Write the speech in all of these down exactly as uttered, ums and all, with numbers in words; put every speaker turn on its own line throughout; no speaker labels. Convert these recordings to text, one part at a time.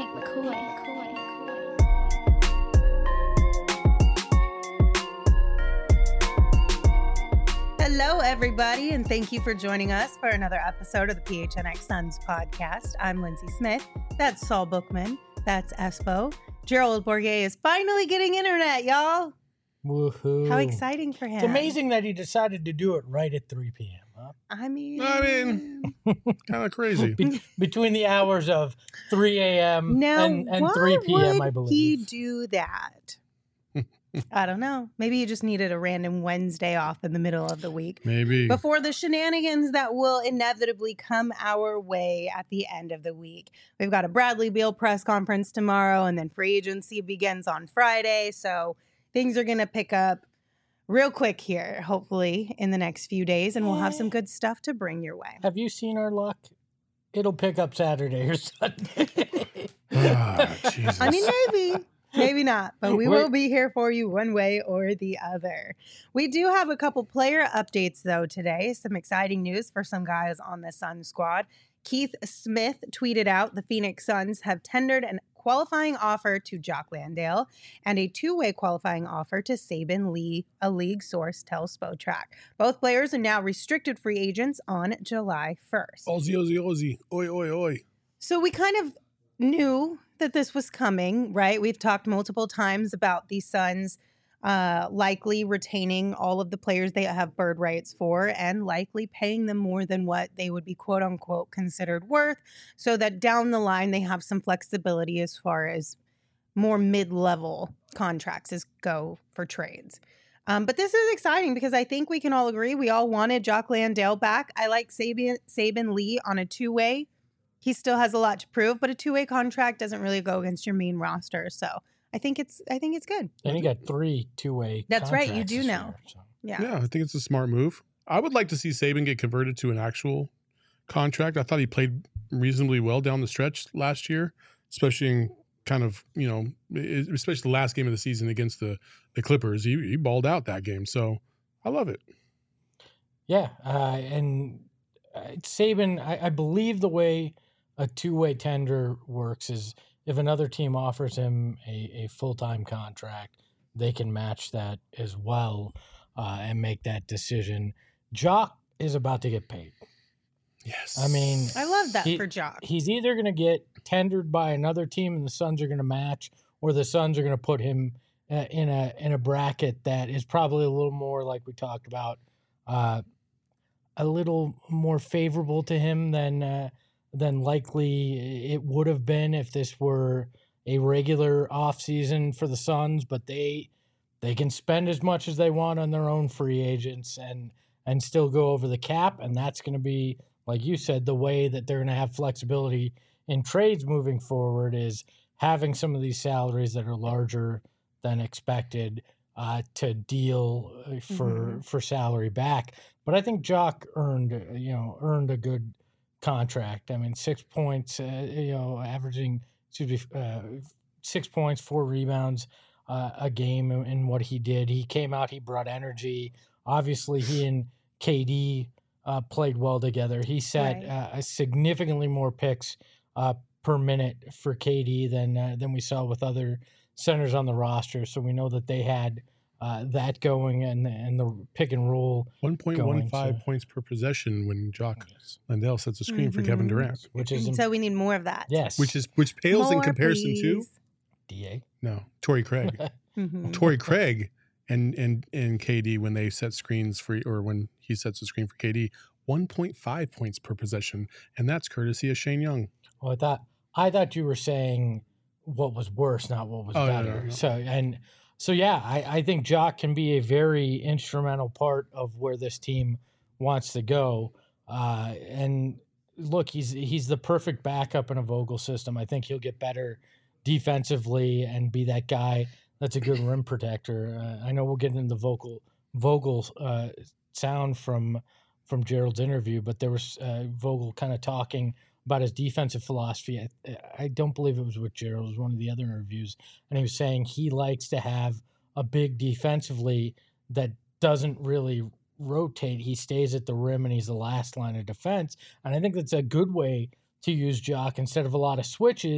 Hank McCoy.
Hello, everybody, and thank you for joining us for another episode of the P H N X Suns podcast. I'm Lindsay Smith. That's Saul Bookman. That's Espo. Gerald Bourguet is finally getting internet, y'all.
Woohoo.
How exciting for him.
It's amazing that he decided to do it right at three p.m. Huh?
I mean,
I mean, kind of crazy.
Be- between the hours of three a.m.
now,
and, and
why
three p.m., I
would
believe.
he do that? I don't know. Maybe he just needed a random Wednesday off in the middle of the week.
Maybe.
Before the shenanigans that will inevitably come our way at the end of the week. We've got a Bradley Beal press conference tomorrow, and then free agency begins on Friday. So things are going to pick up real quick here, hopefully, in the next few days, and we'll have some good stuff to bring your way.
Have you seen our luck? It'll pick up Saturday or Sunday.
Ah, Jesus.
I mean, maybe. Maybe not, but we
We're-
will be here for you one way or the other. We do have a couple player updates, though, today. Some exciting news for some guys on the Sun squad. Keith Smith tweeted out the Phoenix Suns have tendered a qualifying offer to Jock Landale and a two-way qualifying offer to Saben Lee, a league source tells Spotrac. Both players are now restricted free agents on July first.
Ozzy, Ozzy, Ozzy. Oi, oi, oi.
So we kind of knew that this was coming, right? We've talked multiple times about the Suns uh, likely retaining all of the players they have bird rights for and likely paying them more than what they would be quote unquote considered worth, so that down the line they have some flexibility as far as more mid-level contracts as go for trades. Um, but this is exciting because I think we can all agree we all wanted Jock Landale back. I like Saben, Saben Lee on a two-way. He still has a lot to prove, but a two-way contract doesn't really go against your main roster. So I think it's I think it's good.
And he got three two-way
That's right, you
contracts
do
this
know.
year, so.
Yeah.
Yeah, I think it's a smart move. I would like to see Saban get converted to an actual contract. I thought he played reasonably well down the stretch last year, especially in kind of, you know, especially the last game of the season against the, the Clippers. He, he balled out that game. So I love it.
Yeah, uh, and uh, Saban, I, I believe the way a two-way tender works is if another team offers him a, a full-time contract, they can match that as well uh, and make that decision. Jock is about to get paid.
Yes.
I mean,
I love that
he-
for Jock.
He's either going to get tendered by another team and the Suns are going to match, or the Suns are going to put him uh, in a in a bracket that is probably a little more, like we talked about, uh, a little more favorable to him than uh, than likely it would have been if this were a regular offseason for the Suns. But they they can spend as much as they want on their own free agents and and still go over the cap, and that's going to be, like you said, the way that they're going to have flexibility in trades moving forward is having some of these salaries that are larger than expected uh, to deal for
Mm-hmm.
for salary back. But I think Jock earned you know earned a good contract. I mean, six points, uh, you know, averaging excuse me, uh, six points, four rebounds uh, a game in, in what he did. He came out, he brought energy. Obviously, he and K D uh, played well together. He set
Right.
uh, significantly more picks uh, per minute for K D than uh, than we saw with other centers on the roster. So we know that they had uh, that going and and the pick and roll,
one point one five
going to-
points per possession when Jock Landale sets a screen for Kevin
Mhm.
Durant,
which is
So we need more of that.
yes,
which is which pales in
More,
comparison to
please.
D A.
no Torrey Craig.
Mhm.
Torrey Craig and and and K D when they set screens for, or when he sets a screen for K D, one point five points per possession, and that's courtesy of Shane Young.
Well, I thought I thought you were saying what was worse, not what was
Oh, no,
better.
no, no.
So and so yeah, I, I think Jock can be a very instrumental part of where this team wants to go. Uh, and look, he's he's the perfect backup in a Vogel system. I think he'll get better defensively and be that guy that's a good rim protector. Uh, I know we'll get into the vocal Vogel uh, sound from from Gerald's interview, but there was uh, Vogel kind of talking about his defensive philosophy. I, I don't believe it was with Gerald, it was one of the other interviews, and he was saying he likes to have a big defensively that doesn't really rotate. He stays at the rim and he's the last line of defense. And I think that's a good way to use Jock instead of a lot of switches.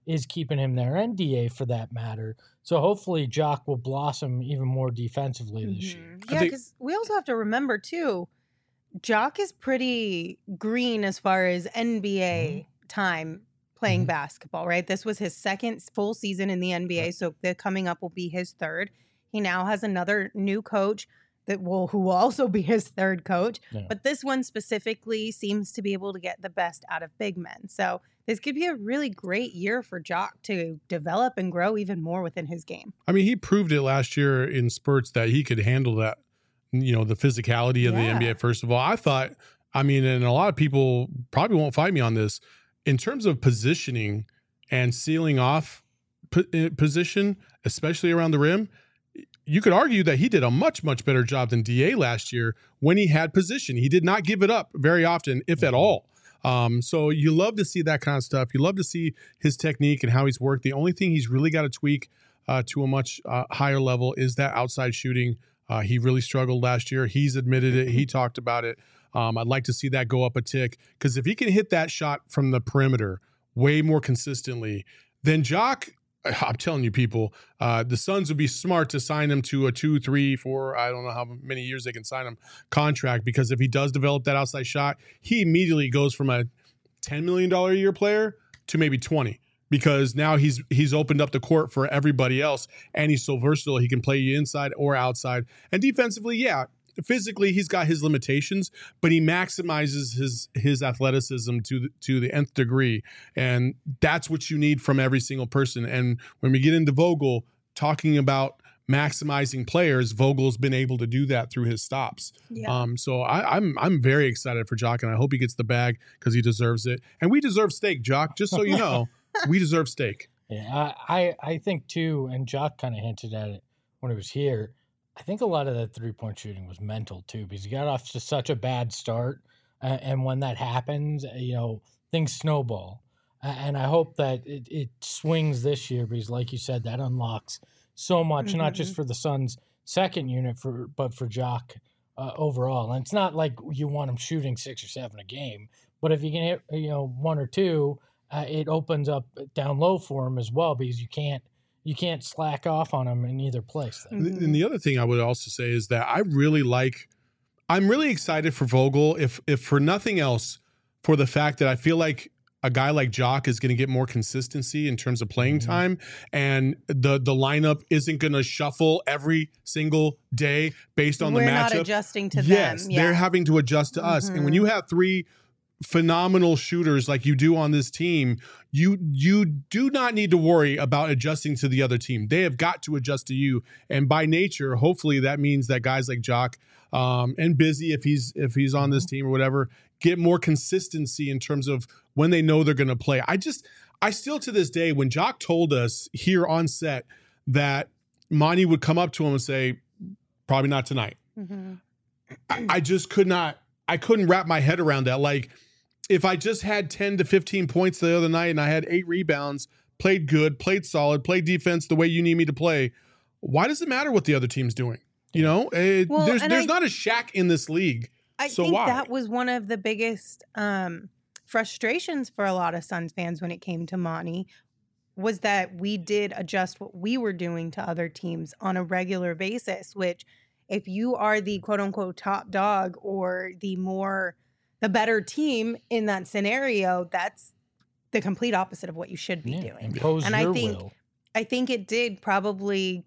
is keeping him there, and D A for that matter. So hopefully Jock will blossom even more defensively this
Mm-hmm.
year.
Yeah,
think-
because we also have to remember too, Jock is pretty green as far as N B A time playing
Mhm.
basketball, right? This was his second full season in the N B A, so the coming up will be his third. He now has another new coach that will who will also be his third coach.
Yeah.
But this one specifically seems to be able to get the best out of big men. So this could be a really great year for Jock to develop and grow even more within his game.
I mean, he proved it last year in spurts that he could handle that, you know, the physicality of the N B A,
Yeah.
first of all. I thought, I mean, and a lot of people probably won't fight me on this, in terms of positioning and sealing off po- position, especially around the rim, you could argue that he did a much, much better job than D A last year when he had position. He did not give it up very often, if at all. Um, so you love to see that kind of stuff. You love to see his technique and how he's worked. The only thing he's really got to tweak uh, to a much uh, higher level is that outside shooting. Uh, he really struggled last year. He's admitted it. He talked about it. Um, I'd like to see that go up a tick, because if he can hit that shot from the perimeter way more consistently, then Jock, I'm telling you, people, uh, the Suns would be smart to sign him to a two, three, four, I don't know how many years they can sign him contract, because if he does develop that outside shot, he immediately goes from a ten million dollars a year player to maybe twenty, because now he's he's opened up the court for everybody else, and he's so versatile. He can play you inside or outside. And defensively, yeah, physically he's got his limitations, but he maximizes his his athleticism to the, to the nth degree, and that's what you need from every single person. And when we get into Vogel talking about maximizing players, Vogel's been able to do that through his stops.
Yeah.
Um, so I, I'm I'm very excited for Jock, and I hope he gets the bag, because he deserves it, and we deserve steak, Jock. Just so you know, we deserve steak.
Yeah, I, I, I think too, and Jock kind of hinted at it when he was here. I think a lot of that three-point shooting was mental too, because he got off to such a bad start, uh, and when that happens, uh, you know, things snowball. Uh, and I hope that it, it swings this year, because, like you said, that unlocks so much, not just for the Suns' second unit, for but for Jock uh, overall. And it's not like you want him shooting six or seven a game, but if you can hit, you know, one or two, uh, it opens up down low for him as well, because you can't. You can't slack off on them in either place. Then.
Mhm.
And the other thing I would also say is that I really like, I'm really excited for Vogel, if if for nothing else, for the fact that I feel like a guy like Jock is going to get more consistency in terms of playing
Mhm.
time, and the the lineup isn't going to shuffle every single day based on
We're
the
not
matchup.
adjusting to
Yes,
them.
they're
Yeah.
having to adjust to us. And when
Mhm.
you have three phenomenal shooters like you do on this team, you you do not need to worry about adjusting to the other team. They have got to adjust to you. And by nature, hopefully that means that guys like Jock um, and Busy, if he's if he's on this team or whatever, get more consistency in terms of when they know they're going to play. I just, I still to this day, when Jock told us here on set that Monty would come up to him and say, probably not tonight.
Mhm.
I, I just could not, I couldn't wrap my head around that. Like, if I just had ten to fifteen points the other night and I had eight rebounds, played good, played solid, played defense the way you need me to play, why does it matter what the other team's doing? You know, it,
Well,
there's
and
there's
I-
not a Shaq in this league.
I
So
think
why?
that was one of the biggest um, frustrations for a lot of Suns fans when it came to Monty, was that we did adjust what we were doing to other teams on a regular basis, which if you are the quote unquote top dog or the more, the better team in that scenario, that's the complete opposite of what you should be
Yeah,
doing.
impose
And I
your
think-
will.
I think it did probably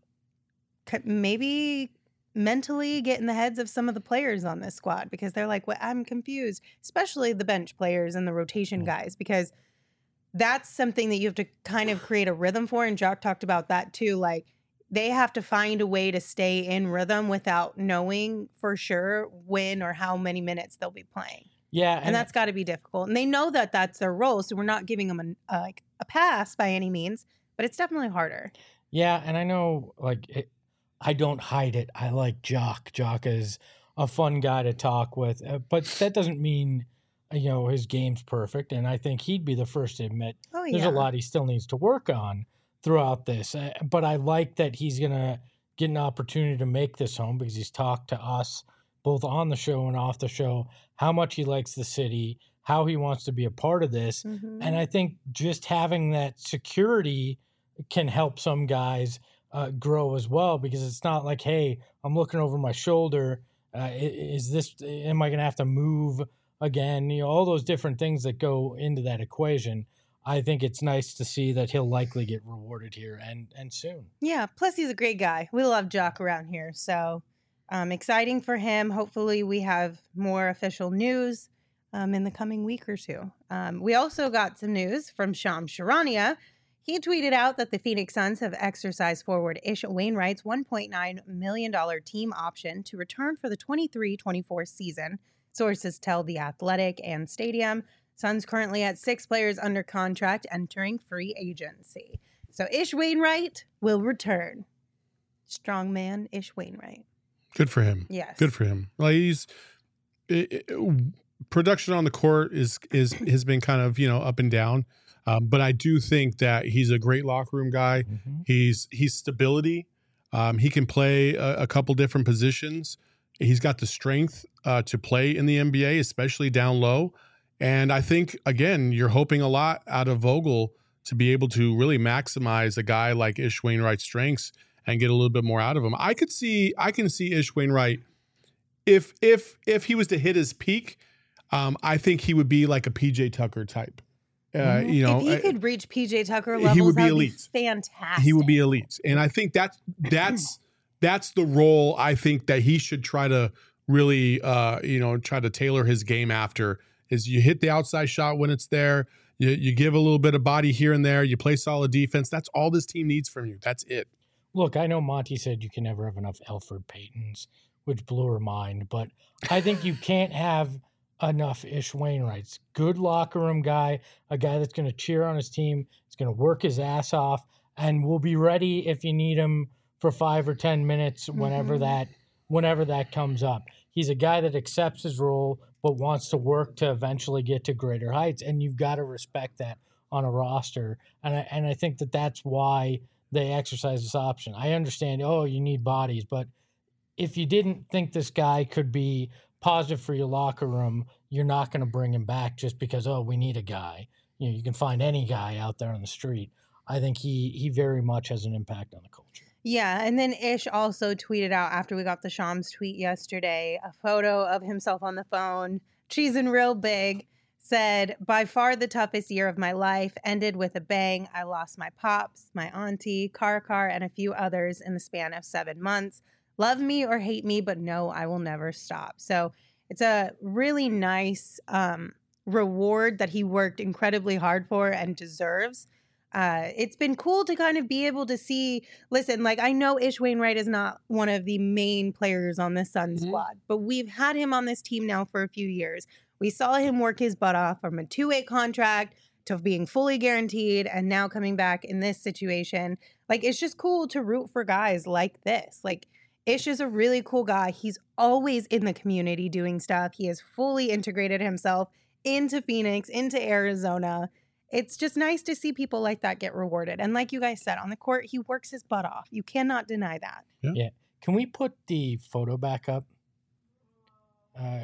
c- maybe mentally get in the heads of some of the players on this squad, because they're like, well, I'm confused, especially the bench players and the rotation
Mm.
guys, because that's something that you have to kind of create a rhythm for. And Jock talked about that too. Like, they have to find a way to stay in rhythm without knowing for sure when or how many minutes they'll be playing.
Yeah,
And, that's got to be difficult. And they know that that's their role. So we're not giving them a, uh, like a pass by any means, but it's definitely harder.
Yeah, and I know, like, it, I don't hide it. I like Jock. Jock is a fun guy to talk with, uh, but that doesn't mean, uh, you know, his game's perfect. And I think he'd be the first to admit
Oh, yeah.
there's a lot he still needs to work on throughout this. Uh, but I like that he's going to get an opportunity to make this home, because he's talked to us both on the show and off the show how much he likes the city, how he wants to be a part of this.
Mhm.
And I think just having that security can help some guys uh, grow as well, because it's not like, hey, I'm looking over my shoulder. Uh, is this, am I going to have to move again? You know, all those different things that go into that equation. I think it's nice to see that he'll likely get rewarded here and, and soon.
Yeah. Plus, he's a great guy. We love Jock around here. So um, exciting for him. Hopefully, we have more official news um, in the coming week or two. Um, we also got some news from Shams Charania. He tweeted out that the Phoenix Suns have exercised forward Ish Wainwright's one point nine million dollars team option to return for the twenty-three twenty-four season. Sources tell The Athletic and Stadium. Suns currently at six players under contract entering free agency. So Ish Wainwright will return. Strong man, Ish Wainwright.
Good for him.
Yes.
Good for him. Like he's it, it, production on the court is is has been kind of, you know, up and down. Um, but I do think that he's a great locker room guy.
Mm-hmm.
He's he's stability. Um, he can play a, a couple different positions. He's got the strength uh, to play in the N B A, especially down low. And I think, again, you're hoping a lot out of Vogel to be able to really maximize a guy like Ish Wainwright's strengths and get a little bit more out of him. I could see, I can see Ish Wainwright, if if if he was to hit his peak, um, I think he would be like a P J Tucker type. Uh,
Mhm.
you know,
if he
uh,
could reach P J Tucker
he
levels,
would be
that would
elite.
be fantastic.
he would be elite. And I think that's that's that's the role I think that he should try to really uh, you know, try to tailor his game after. Is you hit the outside shot when it's there, you you give a little bit of body here and there, you play solid defense. That's all this team needs from you. That's it.
Look, I know Monty said you can never have enough Elfrid Paytons, which blew her mind, but I think you can't have enough Ish Wainwrights. Good locker room guy, a guy that's going to cheer on his team, is going to work his ass off, and will be ready if you need him for five or ten minutes whenever
Mhm.
that whenever that comes up. He's a guy that accepts his role but wants to work to eventually get to greater heights, and you've got to respect that on a roster. And I, and I think that that's why they exercise this option. I understand, oh, you need bodies, but if you didn't think this guy could be positive for your locker room, you're not going to bring him back just because, oh, we need a guy. You know, you can find any guy out there on the street. I think he he very much has an impact on the culture.
Yeah, and then Ish also tweeted out after we got the Shams tweet yesterday, a photo of himself on the phone, cheesing real big, said, by far the toughest year of my life, ended with a bang. I lost my pops, my auntie, Car Car, and a few others in the span of seven months. Love me or hate me, but no, I will never stop. So it's a really nice um, reward that he worked incredibly hard for and deserves. Uh, it's been cool to kind of be able to see, listen, like I know Ish Wainwright is not one of the main players on this Suns
Mhm.
squad, but we've had him on this team now for a few years. We saw him work his butt off from a two-way contract to being fully guaranteed and now coming back in this situation. Like, it's just cool to root for guys like this. Like, Ish is a really cool guy. He's always in the community doing stuff. He has fully integrated himself into Phoenix, into Arizona. It's just nice to see people like that get rewarded. And like you guys said, on the court, he works his butt off. You cannot deny that.
Can we put the photo back up? Uh,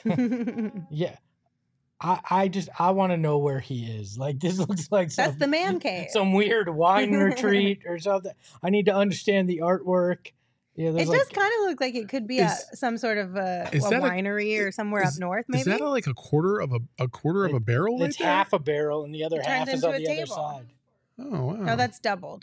yeah. I, I just, I want to know where he is. Like, this looks like some,
That's the man cave.
some weird wine retreat or something. I need to understand the artwork. Yeah,
It
there's
does
like,
kind of look like it could be
Is-
a, some sort of a,
is
a
that a-
winery or somewhere
is-
up north, maybe.
Is that a, like a quarter of a a quarter of a barrel?
it's
right there?
half a barrel and the other
It
half
turns
is
into
on
a
the other
table.
side.
Oh wow.
no, that's doubled.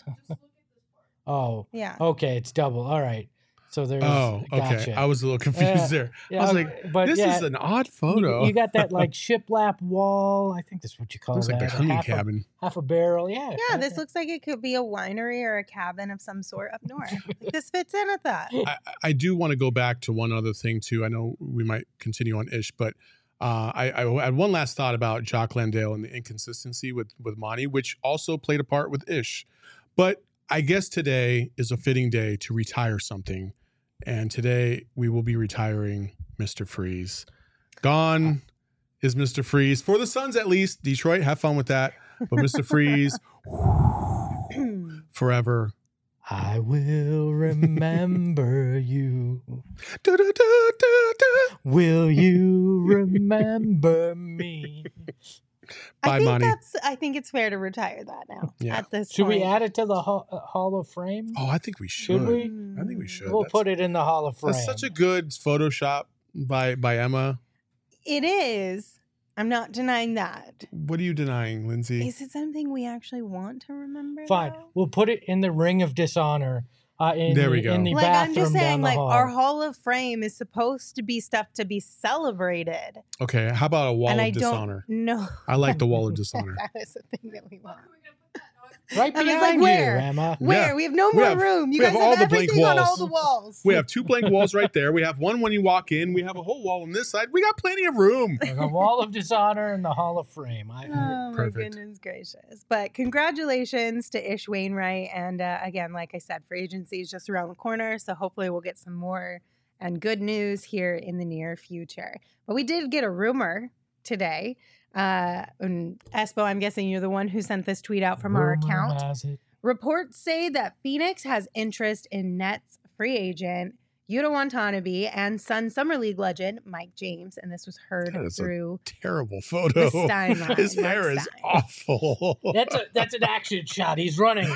Oh,
Yeah.
okay. It's double. All right. So there's,
Oh, okay.
gotcha.
I was a little confused
Yeah.
there.
Yeah,
I was
okay,
like,
but
this
yeah,
is an odd
you-
photo.
You, got that like shiplap wall. I think that's what you call
Looks
that.
like the hunting
half
cabin.
A, half a barrel. Yeah.
Yeah, this looks like it could be a winery or a cabin of some sort up north. Like, this fits in with that.
I, I do want to go back to one other thing too. I know we might continue on Ish, but uh, I, I had one last thought about Jock Landale and the inconsistency with with Monty, which also played a part with Ish. But I guess today is a fitting day to retire something, and today we will be retiring Mister Freeze. Gone is Mister Freeze for the Suns, at least. Detroit, have fun with that. But Mister Freeze, forever
I will remember you.
Da, da, da, da, da.
Will you remember me?
Bye,
I think
Monty.
that's. I think it's fair to retire that now.
Yeah.
At this
Should
point.
we add it to the Hall, uh, Hall of Fame?
Oh, I think we should.
Should we?
I think we should.
We'll
That's-
put it in the Hall of Fame.
That's such a good Photoshop by by Emma.
It is. I'm not denying that.
What are you denying, Lindsay?
Is it something we actually want to remember?
Fine.
though?
We'll put it in the Ring of Dishonor. Uh, in
There
the,
we go.
In the
Like
bathroom
I'm just
down
saying,
the
like
hall.
our Hall of Fame is supposed to be stuff to be celebrated,
Okay, how about a wall
and
of
I
dishonor?
don't know.
I like the wall of dishonor.
That is the thing that we want.
Right
I was
behind
like,
you,
where?
Emma.
Where
Yeah.
we have no
We
more
have-
room. You
we
guys
have
have,
all the blank
everything on all
walls.
the walls.
We have two blank walls right there. We have one when you walk in. We have a whole wall on this side. We got plenty of room.
The Wall of Dishonor and the Hall of Fame. I,
Oh my
Perfect.
goodness gracious. But congratulations to Ish Wainwright. And uh, again, like I said, free agency is just around the corner. So hopefully we'll get some more and good news here in the near future. But we did get a rumor today. Uh, and Espo, I'm guessing you're the one who sent this tweet out from our
rumor
account.
has it.
Reports say that Phoenix has interest in Nets free agent Yuta Watanabe and Sun Summer League legend Mike James. And this was heard
That is a
through
Terrible photo.
the Stein line.
His
Mike
hair is
Stein.
awful.
That's a that's an action shot. He's running.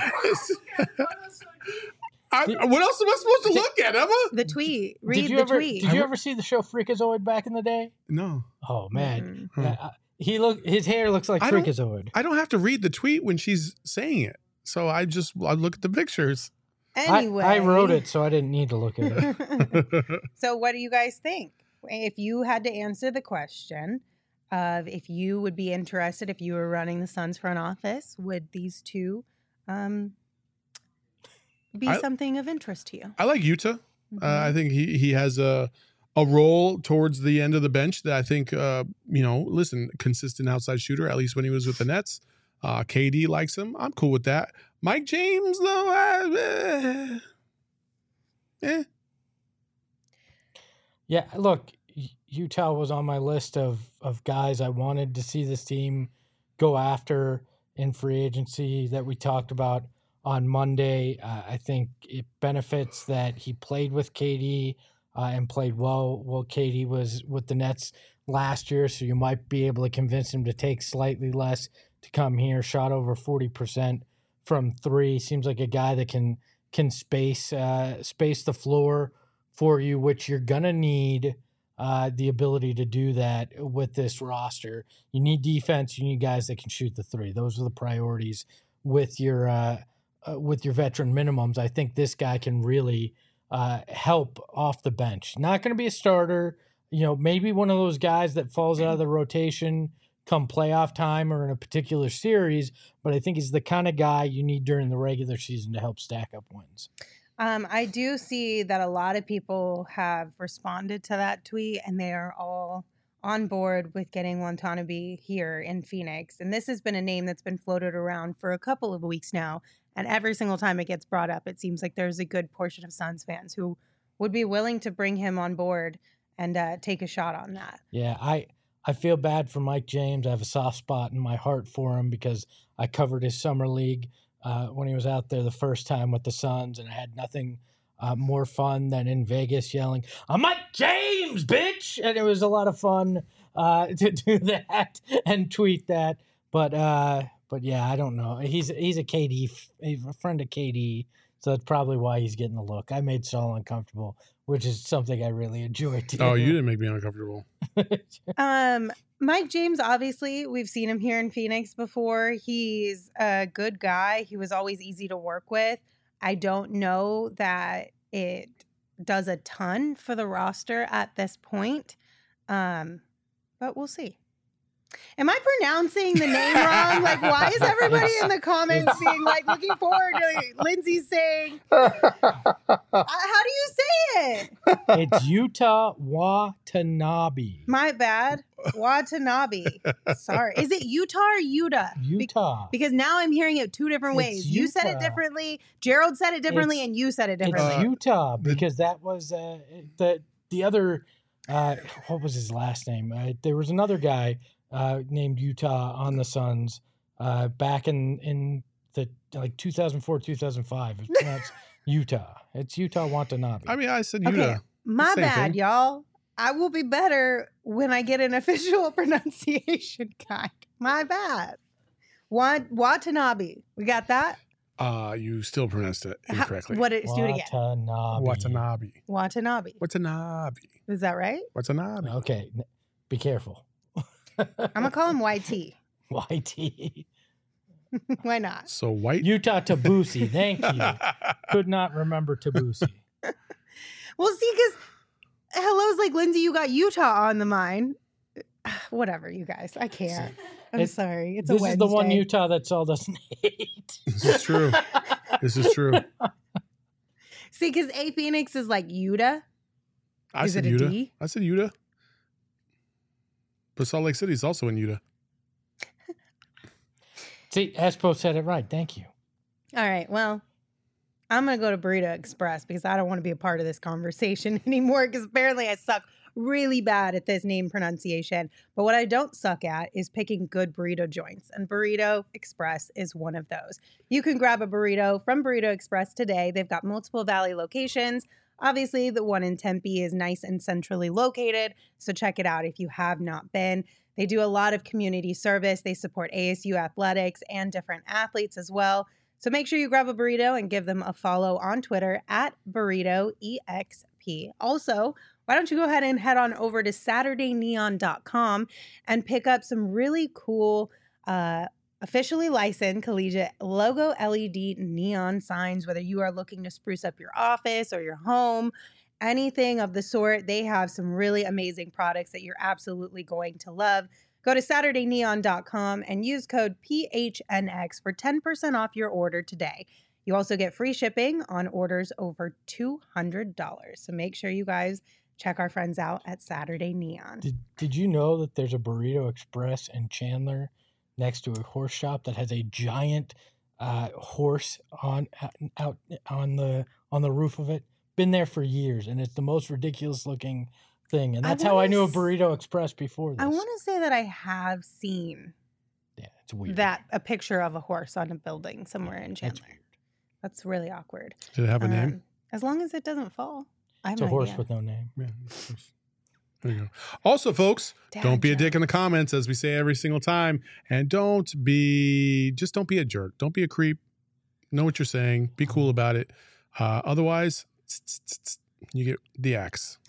I, what else am I supposed to look at, Emma?
The tweet. Read
did you
the
ever
tweet.
did you ever see the show Freakazoid back in the day?
No,
Oh man,
Mhm.
Uh, he look his hair looks like
I don't-
Freakazoid.
I don't have to read the tweet when she's saying it. So I just I look at the pictures.
Anyway,
I, I wrote it, so I didn't need to look at it.
So, what do you guys think? If you had to answer the question of if you would be interested if you were running the Suns front office, would these two um, be
I-
something of interest to you?
I like Yuta.
Mhm.
Uh, I think he he has a a role towards the end of the bench that I think uh, you know. Listen, consistent outside shooter. At least when he was with the Nets. Uh, K D likes him. I'm cool with that. Mike James though, I, eh, eh.
Yeah, look, U- Utah was on my list of of guys I wanted to see this team go after in free agency that we talked about on Monday. Uh, I think it benefits that he played with K D uh, and played well. Well, K D was with the Nets last year, so you might be able to convince him to take slightly less to come here. Shot over forty percent from three. Seems like a guy that can can space uh, space the floor for you, which you're gonna need uh, the ability to do that with this roster. You need defense. You need guys that can shoot the three. Those are the priorities with your uh, uh, with your veteran minimums. I think this guy can really uh, help off the bench. Not going to be a starter. You know, maybe one of those guys that falls out of the rotation come playoff time or in a particular series, but I think he's the kind of guy you need during the regular season to help stack up wins.
Um, I do see that a lot of people have responded to that tweet and they are all on board with getting Watanabe here in Phoenix. And this has been a name that's been floated around for a couple of weeks now. And every single time it gets brought up, it seems like there's a good portion of Suns fans who would be willing to bring him on board and uh, take a shot on that.
Yeah, I I feel bad for Mike James. I have a soft spot in my heart for him because I covered his summer league uh, when he was out there the first time with the Suns, and I had nothing uh, more fun than in Vegas yelling, "I'm Mike James, bitch!" And it was a lot of fun uh, to do that and tweet that. But uh, but yeah, I don't know. He's he's a K D, he's a friend of K D, so that's probably why he's getting the look. I made Saul uncomfortable, which is something I really enjoy too.
Oh, you didn't make me uncomfortable.
Um, Mike James, obviously, we've seen him here in Phoenix before. He's a good guy. He was always easy to work with. I don't know that it does a ton for the roster at this point, um, but we'll see. Am I pronouncing the name wrong? Like, why is everybody in the comments being like, looking forward to Lindsay saying, uh, how do you say it?
It's Utah Watanabe.
My bad. Watanabe. Sorry. Is it Utah or Utah? Be-
Utah.
because now I'm hearing it two different
It's
ways. You said it
Utah.
differently. Gerald said it differently,
It's-
and you said it
It's
differently.
Uh,
Utah
the-
because that was uh, the the other. Uh, what was his last name? Uh, there was another guy uh, named Utah on the Suns uh, back in in the like two thousand four, two thousand five. It's pronounced Utah. It's Utah Watanabe.
I mean, I said
Okay,
Utah.
my
Same
bad,
thing.
y'all. I will be better when I get an official pronunciation guide. My bad. Wat- Watanabe. We got that?
Uh, you still pronounced it
How-
incorrectly.
what? It, do it again.
Watanabe.
Watanabe.
Watanabe.
Watanabe.
Is that right?
Watanabe.
Okay, n- be careful.
I'm gonna call him Y T.
Y T.
Why not?
So white.
Utah Tabusi. Thank you. Could not remember Tabusi.
Well, see, because hello's like, Lindsay, you got Utah on the mind. Whatever, you guys. I can't. I'm
It's-
sorry. It's a
This
Wednesday.
is the one Utah that Saul doesn't hate.
This is true. This is true.
See, because A Phoenix is like Utah.
I
Is
said
it a
Utah.
D?
I said Utah. But Salt Lake City is also in Utah.
See, Espo said it right. Thank you.
All right. Well, I'm going to go to Burrito Express because I don't want to be a part of this conversation anymore because apparently I suck really bad at this name pronunciation. But what I don't suck at is picking good burrito joints. And Burrito Express is one of those. You can grab a burrito from Burrito Express today. They've got multiple Valley locations. Obviously, the one in Tempe is nice and centrally located. So check it out if you have not been. They do a lot of community service. They support A S U athletics and different athletes as well. So make sure you grab a burrito and give them a follow on Twitter at burrito E X P. Also, why don't you go ahead and head on over to Saturday Neon dot com and pick up some really cool, uh, officially licensed collegiate logo L E D neon signs, whether you are looking to spruce up your office or your home, anything of the sort. They have some really amazing products that you're absolutely going to love. Go to Saturday Neon dot com and use code P H N X for ten percent off your order today. You also get free shipping on orders over two hundred dollars. So make sure you guys check our friends out at Saturday Neon.
Did Did you know that there's a Burrito Express in Chandler next to a horse shop that has a giant uh, horse on out on the on the roof of it? Been there for years, and it's the most ridiculous looking thing. And
I
that's how I knew a
wanna s-
Burrito Express before this.
I want to say that I have seen
Yeah, it's weird.
that a picture of a horse on a building somewhere in
That's
Chandler.
weird.
That's really awkward.
Did it have a
Um,
name?
As long as it doesn't fall. I have
It's a
no
horse
idea.
with no name.
Yeah. of course. There you go. Also, folks,
Dad
don't be a dick in the
jokes.
comments, as we say every single time. And don't be, just don't be a jerk. Don't be a creep. Know what you're saying. Be cool about it. Uh, otherwise, you get the axe.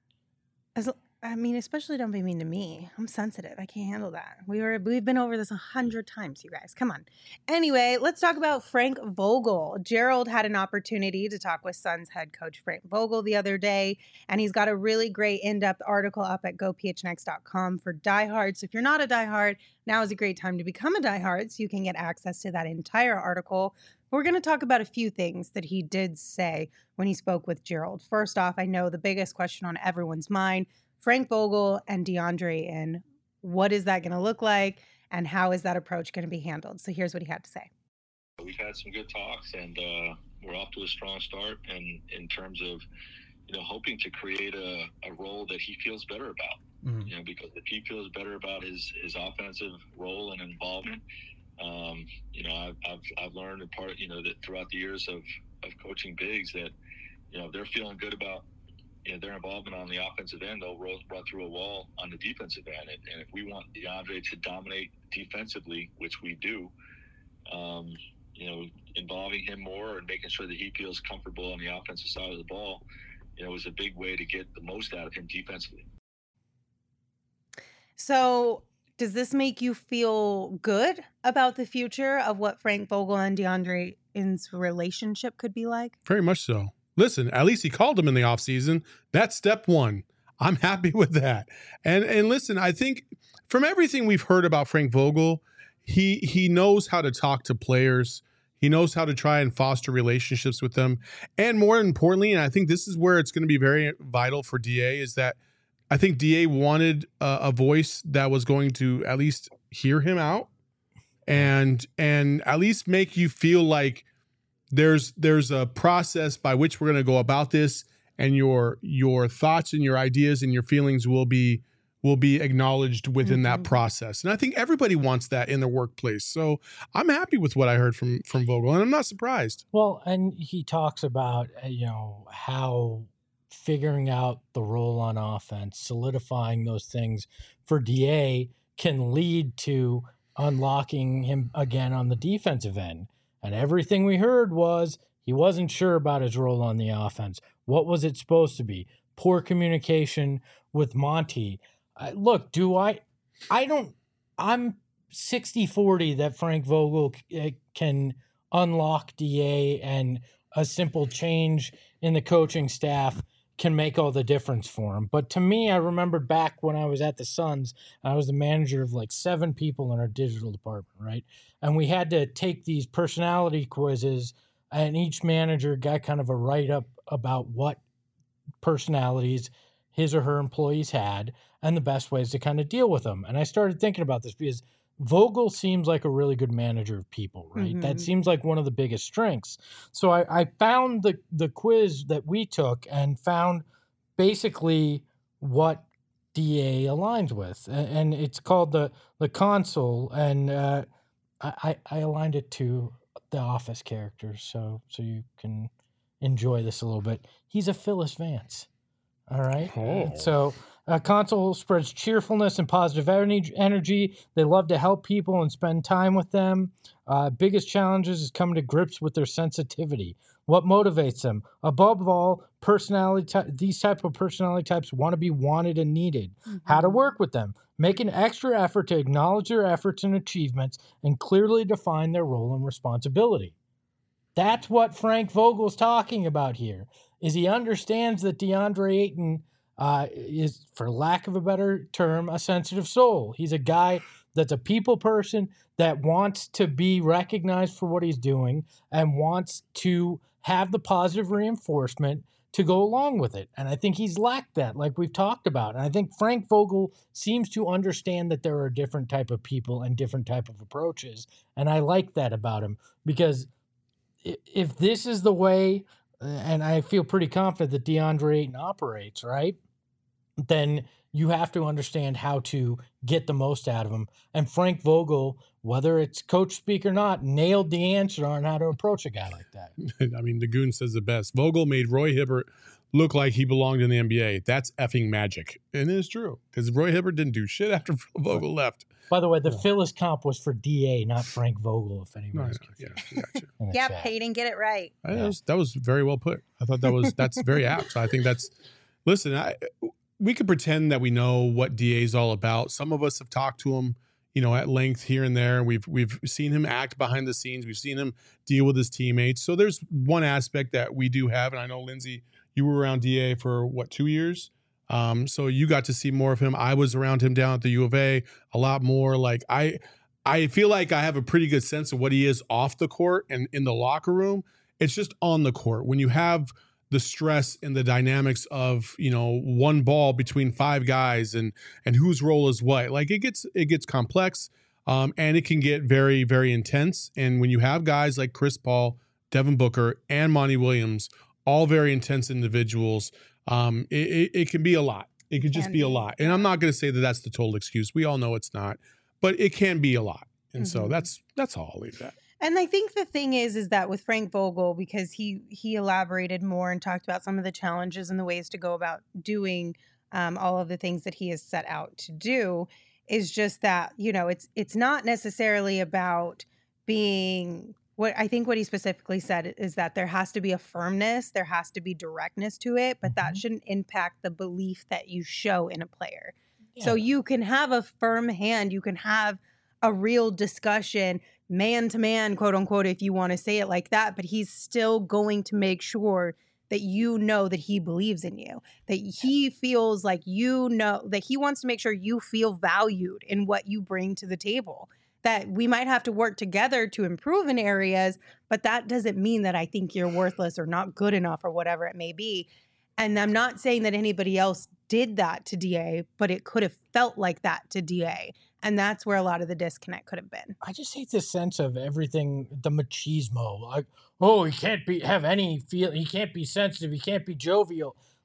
As, I mean, especially don't be mean to me. I'm sensitive. I can't handle that. We were we've been over this a hundred times, you guys. Come on. Anyway, let's talk about Frank Vogel. Gerald had an opportunity to talk with Suns head coach Frank Vogel the other day, and he's got a really great in-depth article up at go p h n x dot com for diehards. So if you're not a diehard, now is a great time to become a diehard so you can get access to that entire article. We're going to talk about a few things that he did say when he spoke with Gerald. First off, I know the biggest question on everyone's mind, Frank Vogel and DeAndre in. What is that going to look like, and how is that approach going to be handled? So here's what he had to say.
We've had some good talks, and uh, we're off to a strong start. And in terms of, you know, hoping to create a, a role that he feels better about.
Mhm.
You know, because if he feels better about his his offensive role and involvement, um, you know, I've, I've I've learned a part, you know, that throughout the years of of coaching bigs that, you know, if they're feeling good about, you know, their involvement on the offensive end, they'll roll, run through a wall on the defensive end. And, and if we want DeAndre to dominate defensively, which we do, um, you know, involving him more and making sure that he feels comfortable on the offensive side of the ball, you know, is a big way to get the most out of him defensively.
So does this make you feel good about the future of what Frank Vogel and DeAndre's relationship could be like?
Very much so. Listen, at least he called him in the offseason. That's step one. I'm happy with that. And and listen, I think from everything we've heard about Frank Vogel, he he knows how to talk to players. He knows how to try and foster relationships with them. And more importantly, and I think this is where it's going to be very vital for D A, is that I think D A wanted a, a voice that was going to at least hear him out and and at least make you feel like there's there's a process by which we're going to go about this, and your your thoughts and your ideas and your feelings will be will be acknowledged within
Mhm.
that process. And I think everybody wants that in their workplace. So I'm happy with what I heard from from Vogel, and I'm not surprised.
Well, and he talks about, uh, you know, how figuring out the role on offense, solidifying those things for D A can lead to unlocking him again on the defensive end. And everything we heard was he wasn't sure about his role on the offense. What was it supposed to be? Poor communication with Monty. Uh, look, do I, I don't, I'm sixty forty that Frank Vogel uh, can unlock D A, and a simple change in the coaching staff can make all the difference for him. But to me, I remembered back when I was at the Suns, I was the manager of like seven people in our digital department, right? And we had to take these personality quizzes, and each manager got kind of a write-up about what personalities his or her employees had and the best ways to kind of deal with them. And I started thinking about this because Vogel seems like a really good manager of people, right?
Mhm.
That seems like one of the biggest strengths. So I, I found the, the quiz that we took and found basically what D A aligns with. And, and it's called the, the console. And uh, I, I aligned it to the Office characters so so you can enjoy this a little bit. He's a Phyllis Vance. All right.
Oh.
So uh, console spreads cheerfulness and positive energy. They love to help people and spend time with them. Uh, biggest challenges is coming to grips with their sensitivity. What motivates them? Above all, personality. Ty- these type of personality types want to be wanted and needed.
Mm-hmm.
How to work with them? Make an extra effort to acknowledge their efforts and achievements and clearly define their role and responsibility. That's what Frank Vogel's talking about here. Is he understands that DeAndre Ayton uh, is, for lack of a better term, a sensitive soul. He's a guy that's a people person that wants to be recognized for what he's doing and wants to have the positive reinforcement to go along with it. And I think he's lacked that, like we've talked about. And I think Frank Vogel seems to understand that there are different type of people and different type of approaches. And I like that about him, because if this is the way, and I feel pretty confident that DeAndre Ayton operates, right, then you have to understand how to get the most out of him. And Frank Vogel, whether it's coach speak or not, nailed the answer on how to approach a guy like that.
I mean, the Goon says the best. Vogel made Roy Hibbert look like he belonged in the N B A. That's effing magic. And it is true, because Roy Hibbert didn't do shit after Vogel left.
By the way, the
Yeah.
Phyllis comp was for D A, not Frank Vogel, if
No,
anybody's
no,
confused.
yeah, gotcha.
in the
Yep,
chat.
Hayden, get it right.
I- that, was, that was very well put. I thought that was that's very apt. So I think that's listen. I we could pretend that we know what D A is all about. Some of us have talked to him, you know, at length here and there. We've we've seen him act behind the scenes. We've seen him deal with his teammates. So there's one aspect that we do have, and I know Lindsay, you were around D A for what, two years? Um, so you got to see more of him. I was around him down at the U of A a lot more. Like I, I feel like I have a pretty good sense of what he is off the court and in the locker room. It's just on the court when you have the stress and the dynamics of, you know, one ball between five guys and and whose role is what. Like it gets it gets complex, um, and it can get very very intense. And when you have guys like Chris Paul, Devin Booker, and Monty Williams, all very intense individuals, um, it, it, it can be a lot. It could just
Can
be a
be,
lot. And I'm not going to say that that's the total excuse. We all know it's not, but it can be a lot. And so
Mhm.
that's that's all I'll leave that.
And I think the thing is, is that with Frank Vogel, because he he elaborated more and talked about some of the challenges and the ways to go about doing um, all of the things that he has set out to do, is just that, you know, it's it's not necessarily about being what I think what he specifically said is that there has to be a firmness, there has to be directness to it, but that
Mhm.
shouldn't impact the belief that you show in a player. So
Yeah.
you can have a firm hand, you can have a real discussion, man to man, quote unquote, if you want to say it like that, but he's still going to make sure that you know that he believes in you, that he feels like you know, that he wants to make sure you feel valued in what you bring to the table. That we might have to work together to improve in areas, but that doesn't mean that I think you're worthless or not good enough or whatever it may be. And I'm not saying that anybody else did that to D A, but it could have felt like that to D A. And that's where a lot of the disconnect could have been.
I just hate this sense of everything, the machismo. Like, oh, he can't be have any feel. He can't be sensitive. He can't be jovial.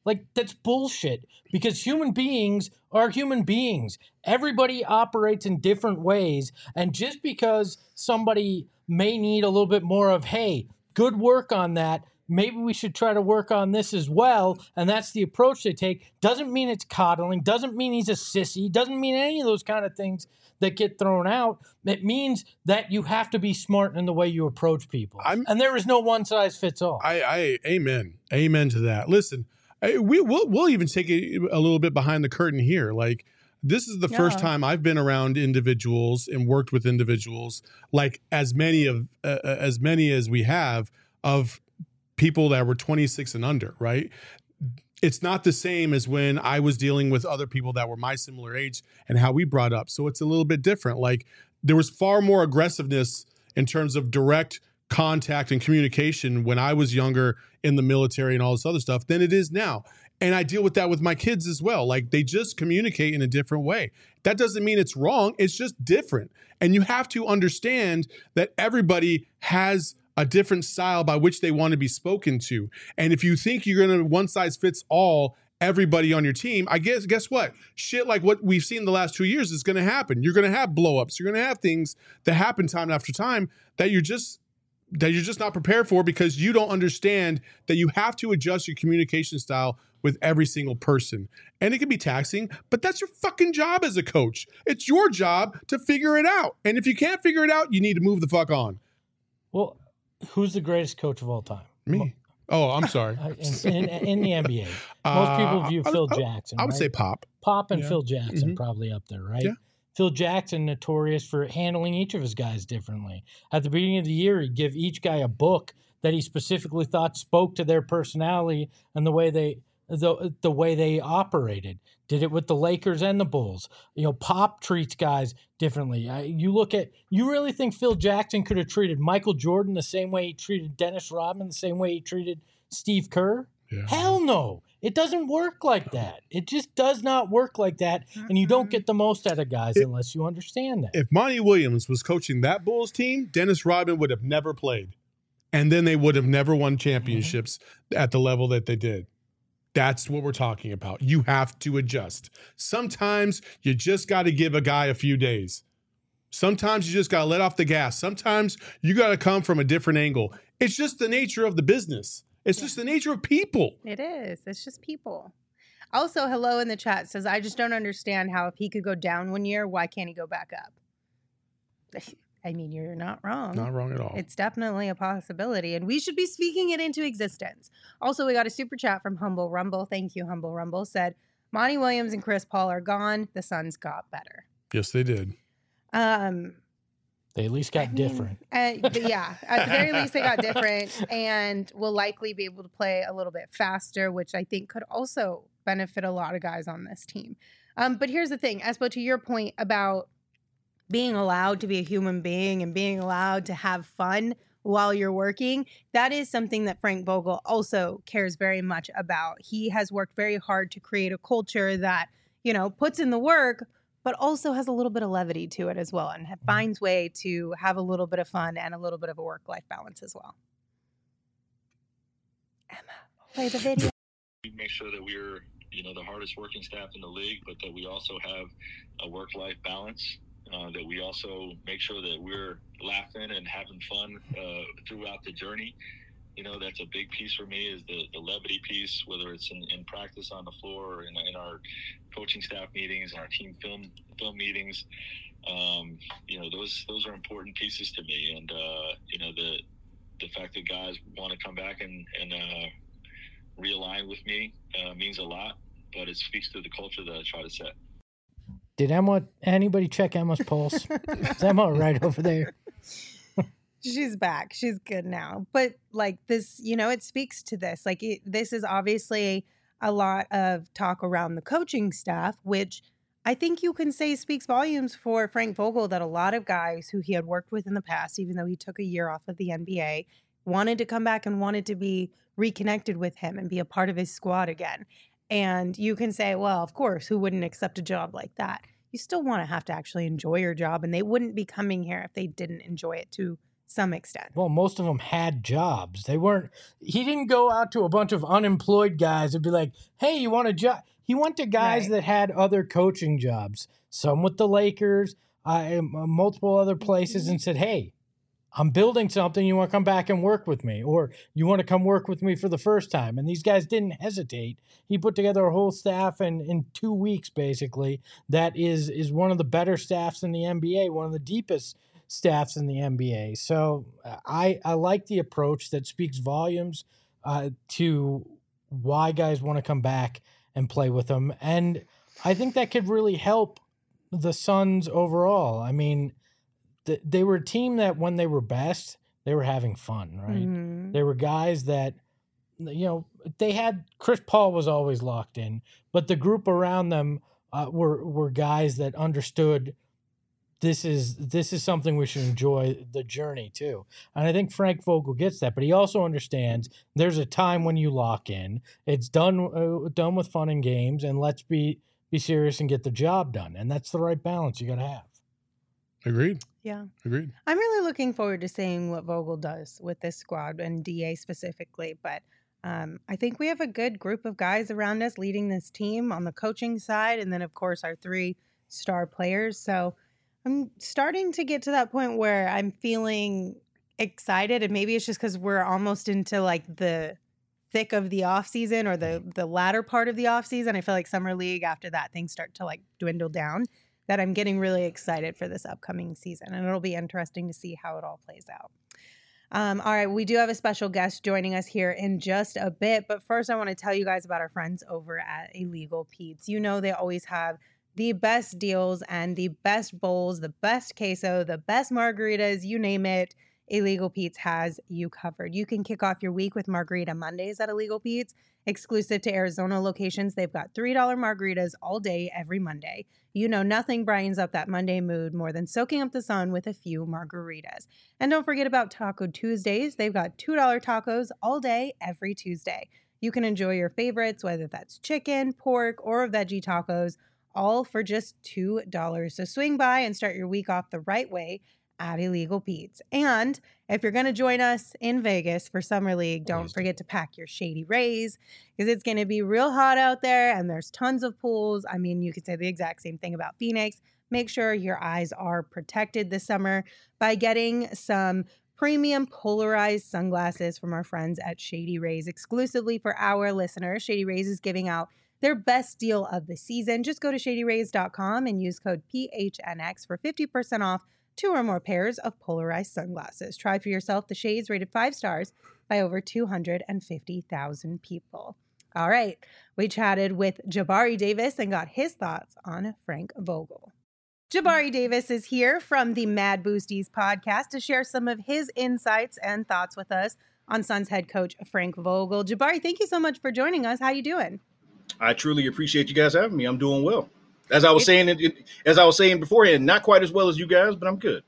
Like, that's bullshit, because human beings are human beings. Everybody operates in different ways. And just because somebody may need a little bit more of, hey, good work on that, maybe we should try to work on this as well, and that's the approach they take, doesn't mean it's coddling, doesn't mean he's a sissy, doesn't mean any of those kind of things that get thrown out. It means that you have to be smart in the way you approach people. I'm, and there is no one size fits all.
I, I amen. Amen to that. Listen, I, we, we'll, we'll even take it a little bit behind the curtain here. Like, this is the yeah. first time I've been around individuals and worked with individuals, like as many of uh, as many as we have, of people that were twenty-six and under, right? It's not the same as when I was dealing with other people that were my similar age and how we brought up. So it's a little bit different. Like, there was far more aggressiveness in terms of direct contact and communication when I was younger in the military and all this other stuff than it is now. And I deal with that with my kids as well. Like, they just communicate in a different way. That doesn't mean it's wrong. It's just different. And you have to understand that everybody has a different style by which they want to be spoken to. And if you think you're going to one size fits all everybody on your team, I guess, guess what? Shit like what we've seen the last two years is going to happen. You're going to have blowups. You're going to have things that happen time after time that you're just that you're just not prepared for, because you don't understand that you have to adjust your communication style with every single person. And it can be taxing, but that's your fucking job as a coach. It's your job to figure it out. And if you can't figure it out, you need to move the fuck on.
Well, who's the greatest coach of all time?
Me. Oh, I'm sorry.
in, in, in the N B A. Most people view uh, Phil
I,
Jackson.
I would
right?
say Pop.
Pop and
yeah.
Phil Jackson
mm-hmm.
probably up there, right?
Yeah.
Phil Jackson, notorious for handling each of his guys differently. At the beginning of the year, he'd give each guy a book that he specifically thought spoke to their personality and the way they the the way they operated. Did it with the Lakers and the Bulls. You know, Pop treats guys differently. I, you look at, you really think Phil Jackson could have treated Michael Jordan the same way he treated Dennis Rodman, the same way he treated Steve Kerr? Yeah. Hell no. It doesn't work like that. It just does not work like that. And you don't get the most out of guys it, unless you understand that.
If Monty Williams was coaching that Bulls team, Dennis Rodman would have never played. And then they would have never won championships mm-hmm. at the level that they did. That's what we're talking about. You have to adjust. Sometimes you just got to give a guy a few days. Sometimes you just got to let off the gas. Sometimes you got to come from a different angle. It's just the nature of the business. It's yeah. just the nature of people.
It is. It's just people. Also, hello in the chat says, I just don't understand how if he could go down one year, why can't he go back up? I mean, you're not wrong.
Not wrong at all.
It's definitely a possibility, and we should be speaking it into existence. Also, we got a super chat from Humble Rumble. Thank you, Humble Rumble. Said, Monty Williams and Chris Paul are gone. The Suns got better.
Yes, they did.
Um,
They at least got
I mean,
different.
Uh, yeah, at the very least, they got different, and will likely be able to play a little bit faster, which I think could also benefit a lot of guys on this team. Um, but here's the thing, Espo, to your point about being allowed to be a human being and being allowed to have fun while you're working, that is something that Frank Vogel also cares very much about. He has worked very hard to create a culture that, you know, puts in the work, but also has a little bit of levity to it as well, and finds way to have a little bit of fun and a little bit of a work-life balance as well. Emma, play the video.
We make sure that we're, you know, the hardest working staff in the league, but that we also have a work-life balance. Uh, that we also make sure that we're laughing and having fun uh, throughout the journey. You know, that's a big piece for me, is the, the levity piece, whether it's in, in practice on the floor or in, in our coaching staff meetings and our team film film meetings. Um, you know, those those are important pieces to me. And, uh, you know, the the fact that guys want to come back and, and uh, realign with me uh, means a lot, but it speaks to the culture that I try to set.
Did Emma, anybody check Emma's pulse? Is Emma right over there?
She's back. She's good now. But like this, you know, it speaks to this. Like it, this is obviously a lot of talk around the coaching staff, which I think you can say speaks volumes for Frank Vogel, that a lot of guys who he had worked with in the past, even though he took a year off of the N B A, wanted to come back and wanted to be reconnected with him and be a part of his squad again. And you can say, well, of course, who wouldn't accept a job like that? You still want to have to actually enjoy your job, and they wouldn't be coming here if they didn't enjoy it to some extent.
Well, most of them had jobs. They weren't, he didn't go out to a bunch of unemployed guys and be like, hey, you want a job? He went to guys
Right.
that had other coaching jobs, some with the Lakers, uh, multiple other places, and said, hey, I'm building something. You want to come back and work with me, or you want to come work with me for the first time. And these guys didn't hesitate. He put together a whole staff in, in two weeks, basically, that is, is one of the better staffs in the N B A, one of the deepest staffs in the N B A. So I, I like the approach that speaks volumes uh, to why guys want to come back and play with them. And I think that could really help the Suns overall. I mean, th- they were a team that when they were best, they were having fun, right?
Mm-hmm.
They were guys that, you know, they had, Chris Paul was always locked in, but the group around them uh, were, were guys that understood this is, this is something we should enjoy the journey too. And I think Frank Vogel gets that, but he also understands there's a time when you lock in. It's done, uh, done with fun and games, and let's be, be serious and get the job done. And that's the right balance you got to have.
Agreed.
Yeah.
Agreed.
I'm really looking forward to seeing what Vogel does with this squad and D A specifically. But um, I think we have a good group of guys around us leading this team on the coaching side. And then, of course, our three star players. So I'm starting to get to that point where I'm feeling excited. And maybe it's just because we're almost into like the thick of the off season or the, the latter part of the off season. I feel like Summer League, after that, things start to like dwindle down. That I'm getting really excited for this upcoming season. And it'll be interesting to see how it all plays out. Um, all right, we do have a special guest joining us here in just a bit. But first, I want to tell you guys about our friends over at Illegal Pete's. You know they always have the best deals and the best bowls, the best queso, the best margaritas, you name it. Illegal Pete's has you covered. You can kick off your week with Margarita Mondays at Illegal Pete's. Exclusive to Arizona locations, they've got three dollar margaritas all day, every Monday. You know nothing brightens up that Monday mood more than soaking up the sun with a few margaritas. And don't forget about Taco Tuesdays. They've got two dollar tacos all day, every Tuesday. You can enjoy your favorites, whether that's chicken, pork, or veggie tacos, all for just two dollars. So swing by and start your week off the right way at Illegal Pete's. And if you're going to join us in Vegas for Summer League, don't forget to pack your Shady Rays because it's going to be real hot out there and there's tons of pools. I mean, you could say the exact same thing about Phoenix. Make sure your eyes are protected this summer by getting some premium polarized sunglasses from our friends at Shady Rays exclusively for our listeners. Shady Rays is giving out their best deal of the season. Just go to shady rays dot com and use code P H N X for fifty percent off two or more pairs of polarized sunglasses. Try for yourself the shades rated five stars by over two hundred fifty thousand people. All right, we chatted with Jabari Davis and got his thoughts on Frank Vogel. Jabari Davis is here from the Mad Boosties podcast to share some of his insights and thoughts with us on Suns head coach Frank Vogel. Jabari, thank you so much for joining us. How you doing?
I truly appreciate you guys having me. I'm doing well. As I was saying, as I was saying beforehand, not quite as well as you guys, but I'm good.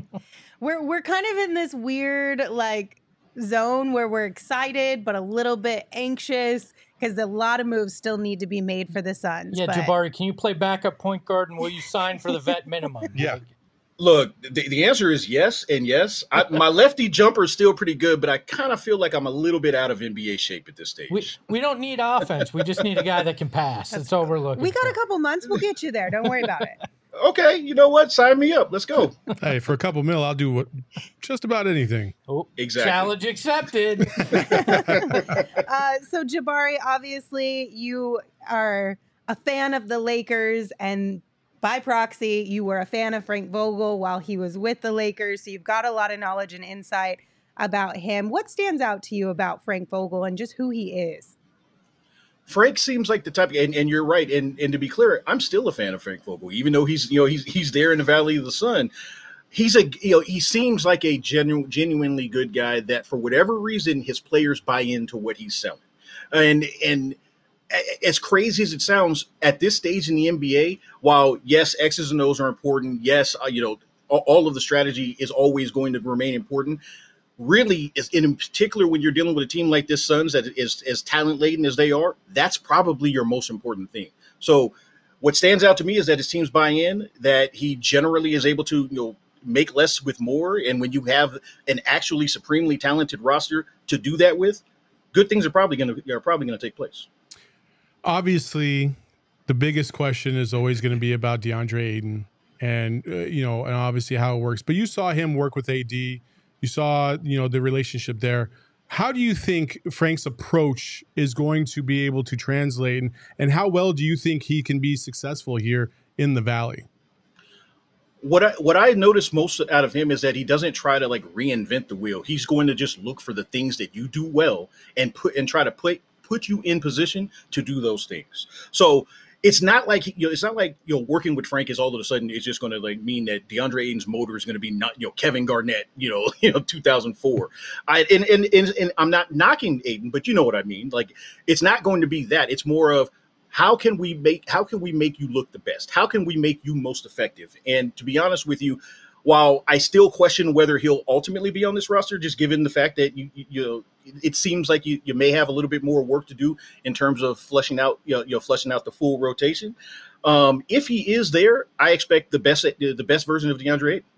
we're we're kind of in this weird like zone where we're excited but a little bit anxious because a lot of moves still need to be made for the Suns.
Yeah,
but...
Jabari, can you play backup point guard and will you sign for the vet minimum?
Yeah.
Look, the, the answer is yes and yes. I, my lefty jumper is still pretty good, but I kind of feel like I'm a little bit out of N B A shape at this stage.
We, we don't need offense. We just need a guy that can pass. That's, That's all we're looking
We got
for.
a couple months. We'll get you there. Don't worry about it.
Okay, you know what? Sign me up. Let's go.
Hey, for a couple mil, I'll do what, just about anything.
Oh,
exactly.
Challenge accepted.
uh, so, Jabari, obviously, you are a fan of the Lakers, and by proxy, you were a fan of Frank Vogel while he was with the Lakers. So you've got a lot of knowledge and insight about him. What stands out to you about Frank Vogel and just who he is?
Frank seems like the type, and, and you're right. And, and to be clear, I'm still a fan of Frank Vogel, even though he's, you know, he's, he's there in the Valley of the Sun. He's a, you know, he seems like a genu- genuinely good guy that for whatever reason, his players buy into what he's selling. And, and as crazy as it sounds at this stage in the N B A, while yes, X's and O's are important. Yes. Uh, you know, all, all of the strategy is always going to remain important. Really, is in particular when you're dealing with a team like this Suns that is as talent laden as they are, that's probably your most important thing. So what stands out to me is that his teams buy in, that he generally is able to, you know, make less with more, and when you have an actually supremely talented roster to do that with, good things are probably going to are probably going to take place.
Obviously, the biggest question is always going to be about DeAndre Ayton, and uh, you know, and obviously how it works. But you saw him work with A D. You saw, you know, the relationship there. How do you think Frank's approach is going to be able to translate, and, and how well do you think he can be successful here in the Valley?
What I what I notice most out of him is that he doesn't try to like reinvent the wheel. He's going to just look for the things that you do well and put and try to put put you in position to do those things. So it's not like, you know, it's not like, you know, working with Frank is all of a sudden it's just going to like mean that DeAndre Ayton's motor is going to be not, you know, Kevin Garnett, you know, you know, two thousand four. I and, and and and I'm not knocking Ayton, but you know what I mean. Like, it's not going to be that. It's more of how can we make how can we make you look the best? How can we make you most effective? And to be honest with you, while I still question whether he'll ultimately be on this roster, just given the fact that you you, you know, it seems like you, you may have a little bit more work to do in terms of fleshing out, you know, you know fleshing out the full rotation. Um, if he is there, I expect the best the best version of DeAndre Ayton.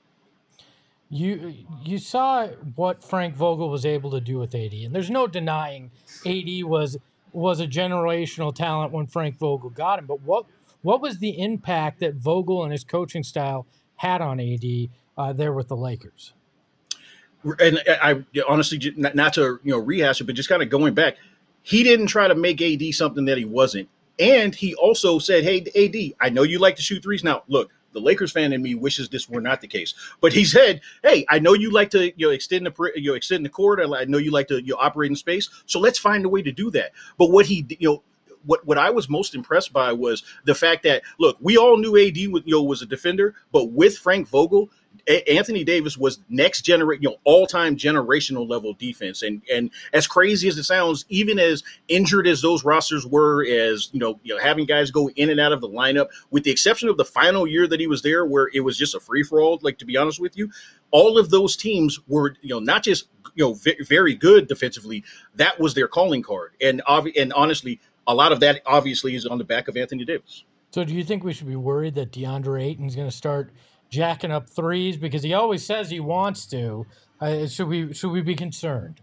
You you saw what Frank Vogel was able to do with A D, and there's no denying A D was was a generational talent when Frank Vogel got him. But what what was the impact that Vogel and his coaching style had on A D uh, there with the Lakers?
And I honestly, not, not to you know rehash it, but just kind of going back, he didn't try to make A D something that he wasn't. And he also said, hey, A D, I know you like to shoot threes. Now, look, the Lakers fan in me wishes this were not the case. But he said, hey, I know you like to you know extend the you know extend the court. I know you like to you know, operate in space. So let's find a way to do that. But what he you know. What what I was most impressed by was the fact that, look, we all knew A D was, you know, was a defender, but with Frank Vogel, a- Anthony Davis was next generation, you know, all time generational level defense. And and as crazy as it sounds, even as injured as those rosters were, as you know, you know, having guys go in and out of the lineup, with the exception of the final year that he was there, where it was just a free for all. Like, to be honest with you, all of those teams were, you know, not just you know v- very good defensively. That was their calling card, and ob- and honestly, a lot of that obviously is on the back of Anthony Davis.
So do you think we should be worried that DeAndre Ayton's going to start jacking up threes because he always says he wants to? Uh, should we should we be concerned?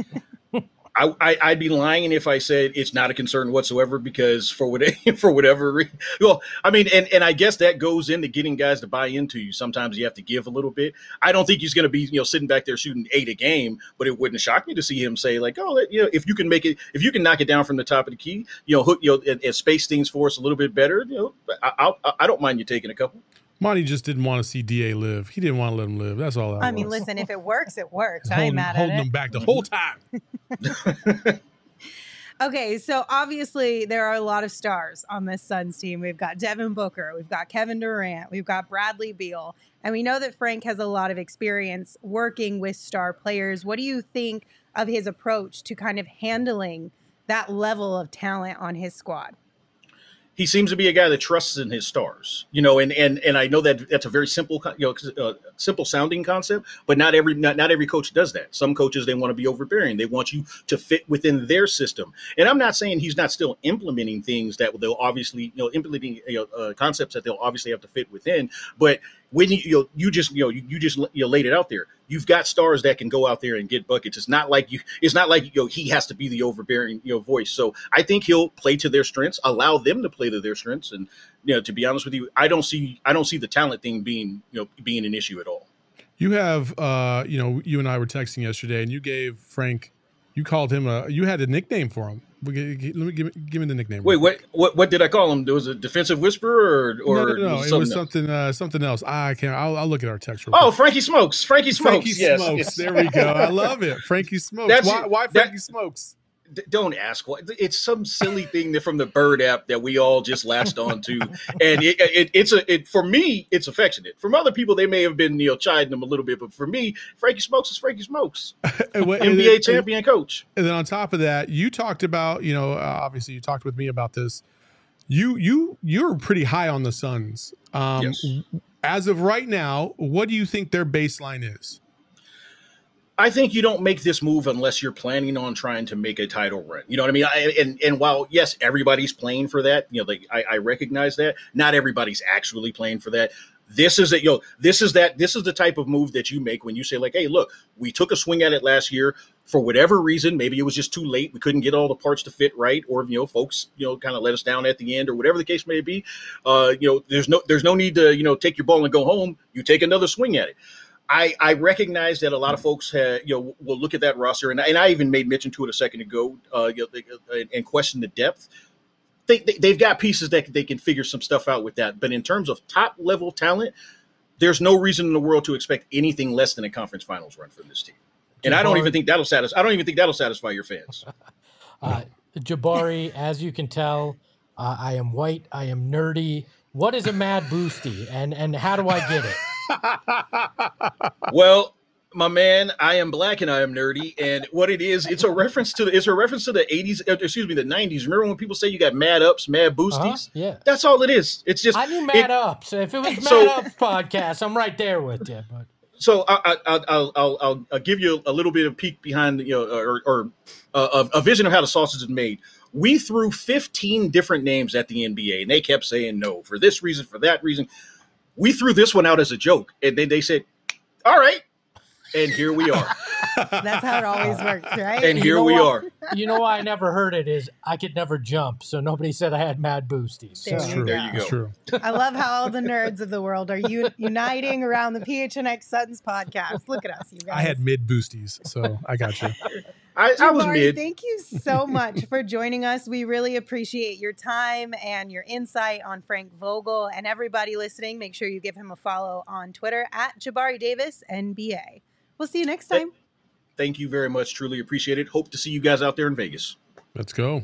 I, I, I'd be lying if I said it's not a concern whatsoever, because for what for whatever reason, well, I mean, and, and I guess that goes into getting guys to buy into you. Sometimes you have to give a little bit. I don't think he's going to be, you know, sitting back there shooting eight a game, but it wouldn't shock me to see him say like, oh, you know, if you can make it, if you can knock it down from the top of the key, you know, hook, you know, and, and space things for us a little bit better, you know, I, I, I don't mind you taking a couple.
Monty just didn't want to see D A live. He didn't want to let him live. That's all that
I
was.
mean, listen, if it works, it works. I
holding,
ain't mad at
holding
it.
him back the whole time.
Okay, so obviously there are a lot of stars on this Suns team. We've got Devin Booker, we've got Kevin Durant, we've got Bradley Beal, and we know that Frank has a lot of experience working with star players. What do you think of his approach to kind of handling that level of talent on his squad?
He seems to be a guy that trusts in his stars, you know, and and and I know that that's a very simple, you know, uh, simple sounding concept, but not every not, not every coach does that. Some coaches, they want to be overbearing. They want you to fit within their system. And I'm not saying he's not still implementing things that they'll obviously, you know, implementing you know, uh, concepts that they'll obviously have to fit within. But when you you, know, you just you know you, you just you know, laid it out there. You've got stars that can go out there and get buckets. It's not like you. It's not like you know he has to be the overbearing you know voice. So I think he'll play to their strengths, allow them to play to their strengths. And you know, to be honest with you, I don't see I don't see the talent thing being you know being an issue at all.
You have, uh, you know, you and I were texting yesterday, and you gave Frank, you called him a, you had a nickname for him. Let me give, give me the nickname.
Wait, what, what, what did I call him? There was a defensive whisperer, or, or
no, no, no.
was
it was something, uh, something else. I can't. I'll, I'll look at our text. Real
oh,
quick.
Frankie Smokes. Frankie Smokes.
Frankie
yes,
Smokes.
yes.
There we go. I love it. Frankie Smokes.
That's
why?
it.
Why
That-
Frankie Smokes?
D- Don't ask what. It's some silly thing that from the Bird app that we all just latched onto, and it, it, it's a. It, for me, it's affectionate. From other people, they may have been you know chiding them a little bit, but for me, Frankie Smokes is Frankie Smokes,
And what-
N
and
B A
then-
champion coach.
And then on top of that, you talked about, you know, uh, obviously you talked with me about this. You you you're pretty high on the Suns. Um,
Yes.
As of right now, what do you think their baseline is?
I think you don't make this move unless you're planning on trying to make a title run. You know what I mean? I, and and while yes, everybody's playing for that, you know, like I, I recognize that. Not everybody's actually playing for that. This is that, you know, this is that, this is the type of move that you make when you say like, hey, look, we took a swing at it last year for whatever reason. Maybe it was just too late. We couldn't get all the parts to fit right. Or, you know, folks, you know, kind of let us down at the end or whatever the case may be. Uh, you know, there's no, there's no need to, you know, take your ball and go home. You take another swing at it. I, I recognize that a lot of folks have, you know, will look at that roster, and, and I even made mention to it a second ago, uh, you know, and question the depth. They, they, they've got pieces that they can figure some stuff out with that. But in terms of top level talent, there's no reason in the world to expect anything less than a conference finals run from this team. And Jabari, I don't even think that'll satisfy. I don't even think that'll satisfy your fans.
uh, Jabari, as you can tell, uh, I am white. I am nerdy. What is a Mad Boosty, and and how do I get it?
Well, my man, I am black and I am nerdy, and what it is, it's a reference to the, it's a reference to the eighties, excuse me, the nineties. Remember when people say you got mad ups, mad boosties?
Uh-huh, yeah,
that's all it is. It's just
I knew mad
it,
ups. If it was mad
so,
ups podcast, I'm right there with you. But
so I, I, I'll, I'll, I'll, I'll give you a little bit of peek behind, you know, or, or uh, a, a vision of how the sausage is made. We threw fifteen different names at the N B A, and they kept saying no for this reason, for that reason. We threw this one out as a joke, and then they said, all right. And here we are.
That's how it always works, right?
And
you
here
know
we
what?
are.
You know why I never heard it is I could never jump, so nobody said I had mad boosties.
There
So.
you
True.
There you go.
That's true.
I love how all the nerds of the world are u- uniting around the P H N X Suns podcast. Look at us, you guys.
I had mid boosties, so I got you.
I, I was
Jabari,
mid.
thank you so much for joining us. We really appreciate your time and your insight on Frank Vogel. And everybody listening, make sure you give him a follow on Twitter at Jabari Davis N B A. We'll see you next time.
Thank you very much. Truly appreciate it. Hope to see you guys out there in Vegas.
Let's go.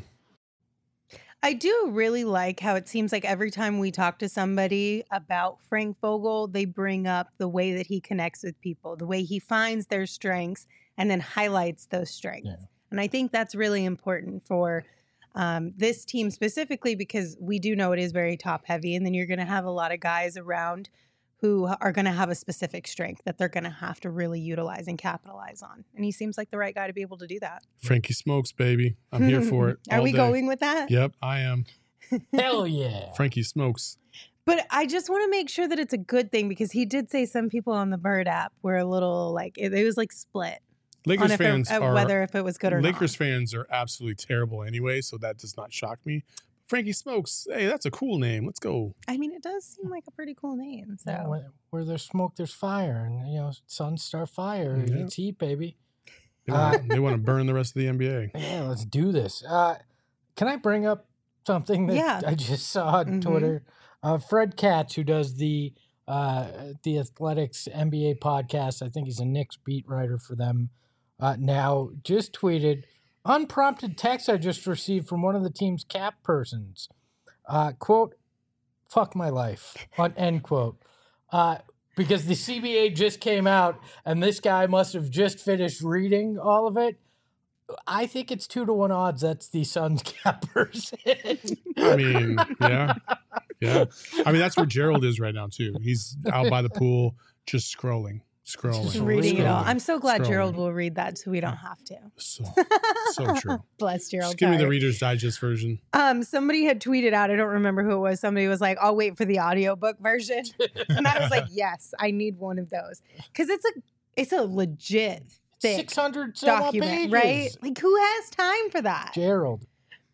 I do really like how it seems like every time we talk to somebody about Frank Vogel, they bring up the way that he connects with people, the way he finds their strengths and then highlights those strengths. Yeah. And I think that's really important for um, this team specifically, because we do know it is very top heavy. And then you're going to have a lot of guys around who are going to have a specific strength that they're going to have to really utilize and capitalize on. And he seems like the right guy to be able to do that.
Frankie Smokes, baby. I'm here for it.
Are we
day.
going with that?
Yep, I am.
Hell yeah.
Frankie Smokes.
But I just want to make sure that it's a good thing, because he did say some people on the Bird app were a little like, it, it was like split.
Lakers
on
fans
it,
are
whether if it was good or
Lakers
not.
Lakers fans are absolutely terrible anyway, so that does not shock me. Frankie Smokes, hey, that's a cool name. Let's go.
I mean, it does seem like a pretty cool name. So
yeah, where, where there's smoke, there's fire, and you know, suns start fire. Yeah. It's heat, baby.
They want, uh, they want to burn the rest of the N B A.
Yeah, let's do this. Uh, can I bring up something that
yeah.
I just saw on mm-hmm. Twitter? Uh, Fred Katz, who does the uh, the Athletics N B A podcast, I think he's a Knicks beat writer for them. Uh, now, just tweeted. Unprompted text I just received from one of the team's cap persons. Uh, quote, fuck my life, end quote. Uh, because the C B A just came out and this guy must have just finished reading all of it. I think it's two to one odds that's the Suns cap person.
I mean, yeah. Yeah. I mean, that's where Gerald is right now, too. He's out by the pool just scrolling. Scrolling.
Just reading
scrolling,
it all. I'm so glad
scrolling.
Gerald will read that so we don't have to.
So, so true.
Bless Gerald.
Just give me
Sorry.
the Reader's Digest version.
Um, somebody had tweeted out, I don't remember who it was. Somebody was like, I'll wait for the audiobook version. And I was like, yes, I need one of those. Because it's a it's a legit thick
six hundred
document, right? Like, who has time for that?
Gerald.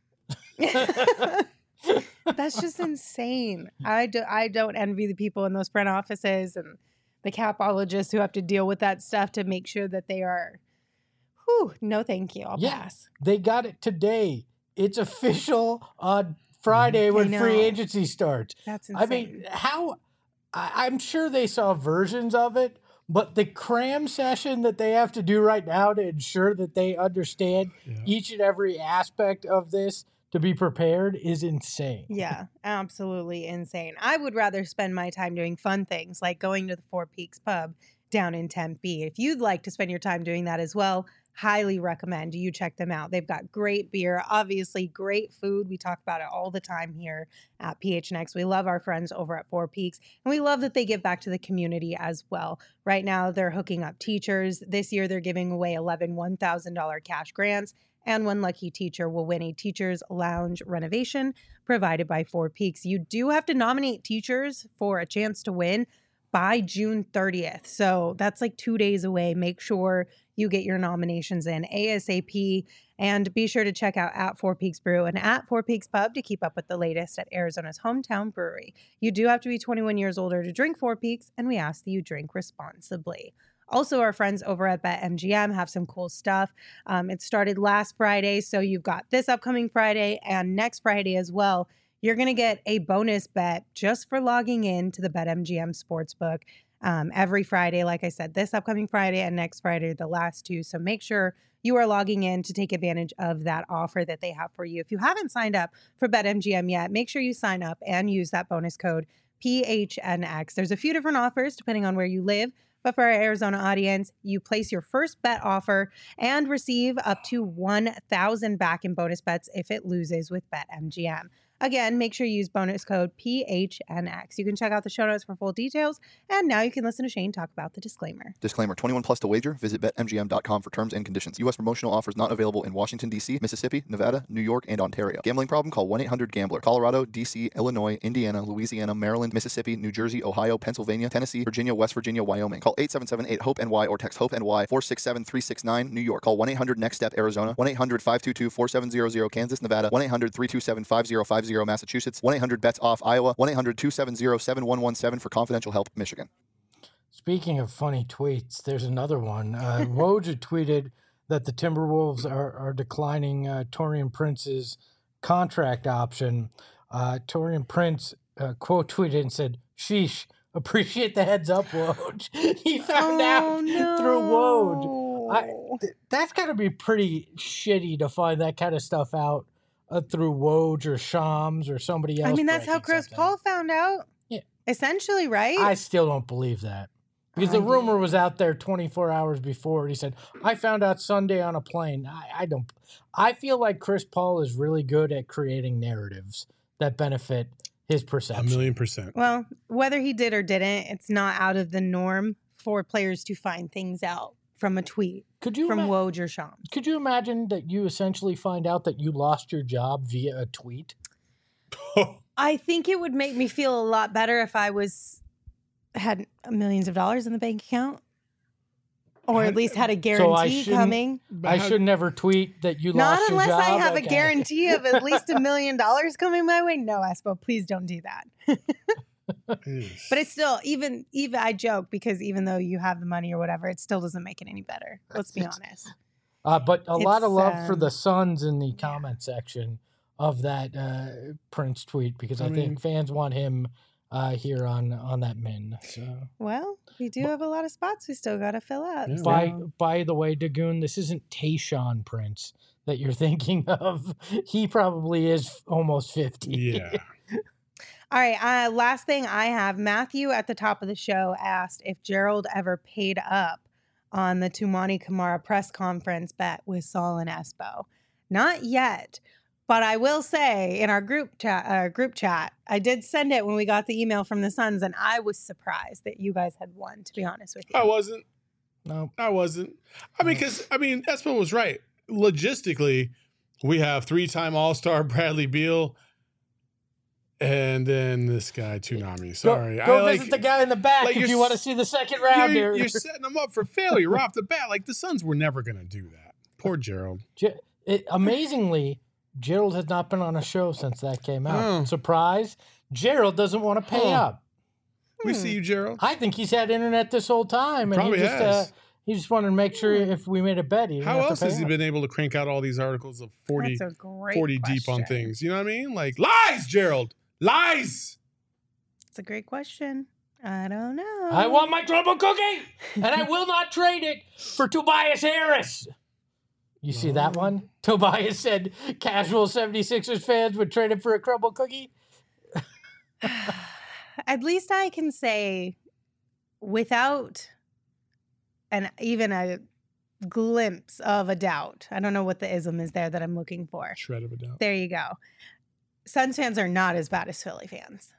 That's just insane. I, do, I don't envy the people in those front offices and the capologists who have to deal with that stuff to make sure that they are, whew, no thank you, I'll
yeah,
pass.
They got it today. It's official on Friday when free agency starts.
That's insane.
I mean, how, I, I'm sure they saw versions of it, but the cram session that they have to do right now to ensure that they understand yeah. each and every aspect of this to be prepared is insane.
Yeah, absolutely insane. I would rather spend my time doing fun things like going to the Four Peaks pub down in Tempe. If you'd like to spend your time doing that as well, highly recommend you check them out. They've got great beer, obviously great food. We talk about it all the time here at P H N X. We love our friends over at Four Peaks, and we love that they give back to the community as well. Right now, they're hooking up teachers. This year, they're giving away eleven one thousand dollars cash grants, and one lucky teacher will win a teacher's lounge renovation provided by Four Peaks. You do have to nominate teachers for a chance to win, by June thirtieth. So that's like two days away. Make sure you get your nominations in ASAP, and be sure to check out at Four Peaks Brew and at Four Peaks Pub to keep up with the latest at Arizona's hometown brewery. You do have to be twenty-one years older to drink Four Peaks, and we ask that you drink responsibly. Also, our friends over at BetMGM have some cool stuff. Um, it started last Friday, so you've got this upcoming Friday and next Friday as well. You're going to get a bonus bet just for logging in to the BetMGM Sportsbook um, every Friday. Like I said, this upcoming Friday and next Friday are the last two. So make sure you are logging in to take advantage of that offer that they have for you. If you haven't signed up for BetMGM yet, make sure you sign up and use that bonus code P H N X. There's a few different offers depending on where you live. But for our Arizona audience, you place your first bet offer and receive up to one thousand dollars back in bonus bets if it loses with BetMGM. Again, make sure you use bonus code P H N X. You can check out the show notes for full details. And now you can listen to Shane talk about the disclaimer.
Disclaimer, twenty-one plus to wager. Visit Bet M G M dot com for terms and conditions. U S promotional offers not available in Washington, D C, Mississippi, Nevada, New York, and Ontario. Gambling problem? Call one eight hundred gambler. Colorado, D C, Illinois, Indiana, Louisiana, Maryland, Mississippi, New Jersey, Ohio, Pennsylvania, Tennessee, Virginia, West Virginia, Wyoming. Call eight seven seven eight HOPE N Y or text HOPE N Y four six seven three six nine. New York. Call one eight hundred next step Arizona. one eight hundred five two two four seven zero zero Kansas, Nevada. one eight hundred three two seven five zero five zero Massachusetts. one eight hundred bets off Iowa. one eight hundred two seven zero seven one one seven for confidential help, Michigan.
Speaking of funny tweets, there's another one. Uh, Woj tweeted that the Timberwolves are, are declining uh, Taurean Prince's contract option. Uh, Taurean Prince uh, quote tweeted and said, "Sheesh, appreciate the heads up, Woj." He found
Oh,
out
no.
through Woj. I, th- that's got to be pretty shitty to find that kind of stuff out uh, through Woj or Shams or somebody else.
I mean, that's how
breaking
Chris
something.
Paul found out.
Yeah.
Essentially, right?
I still don't believe that. Because
I
the rumor
do.
was out there twenty-four hours before. He said, I found out Sunday on a plane. I, I don't. I feel like Chris Paul is really good at creating narratives that benefit his
A
perception.
million percent.
Well, whether he did or didn't, it's not out of the norm for players to find things out from a tweet
Could you
from
ima-
Woj or Shams.
could you imagine that you essentially find out that you lost your job via a tweet?
I think it would make me feel a lot better if I was had millions of dollars in the bank account, or at least had a
I
guarantee
shouldn't-
coming.
I should never tweet that you
Not
lost your
unless
job.
I have
Okay.
a guarantee of at least a million dollars coming my way. No, Espo, please don't do that. But it's still, even even I joke because even though you have the money or whatever, it still doesn't make it any better. Let's be honest.
Uh, but a lot of
It's,
love for
um,
the Suns in the comment section of that uh, Prince tweet because I,
I mean-
think fans want him uh, here on on that min. So.
Well, we do have a lot of spots we still got to fill up.
Yeah.
so-
By by the way, Dagoon, this isn't Tayshaun Prince that you're thinking of. He probably is almost fifty.
Yeah.
All right. Uh, last thing I have, Matthew at the top of the show asked if Gerald ever paid up on the Tumani Kamara press conference bet with Saul and Espo. Not yet, but I will say in our group chat, uh, group chat, I did send it when we got the email from the Suns, and I was surprised that you guys had won. To be honest with you,
I wasn't.
No.
I wasn't. I mean, because, I mean, Espo was right. Logistically, we have three-time All-Star Bradley Beal and then this guy, Toonami. Sorry.
Go, go
I,
visit the guy in the back
like
if
you're
you want to
s-
see the second
you're,
round here.
you're setting them up for failure off the bat. Like, the Suns were never going to do that. Poor Gerald.
Ge- it, amazingly, Gerald has not been on a show since that came out.
Oh.
Surprise! Gerald doesn't want to pay
Huh.
up.
We
Hmm.
see you, Gerald.
I think he's had internet this whole time, and
Probably
he just
has.
uh, he just wanted to make sure if we made a bet, he didn't
How
have to
else
pay
has he
up.
been able to crank out all these articles of forty,
That's a great
forty deep on
question.
things? You know what I mean? Like, lies, Gerald. Lies.
It's a great question. I don't know.
I want my trouble cookie, and I will not trade it for Tobias Harris. You see that one? Tobias said casual seventy-sixers fans would trade him for a crumble cookie.
At least I can say without an even a glimpse of a doubt. I don't know what the ism is there that I'm looking for.
Shred of a doubt.
There you go. Suns fans are not as bad as Philly fans.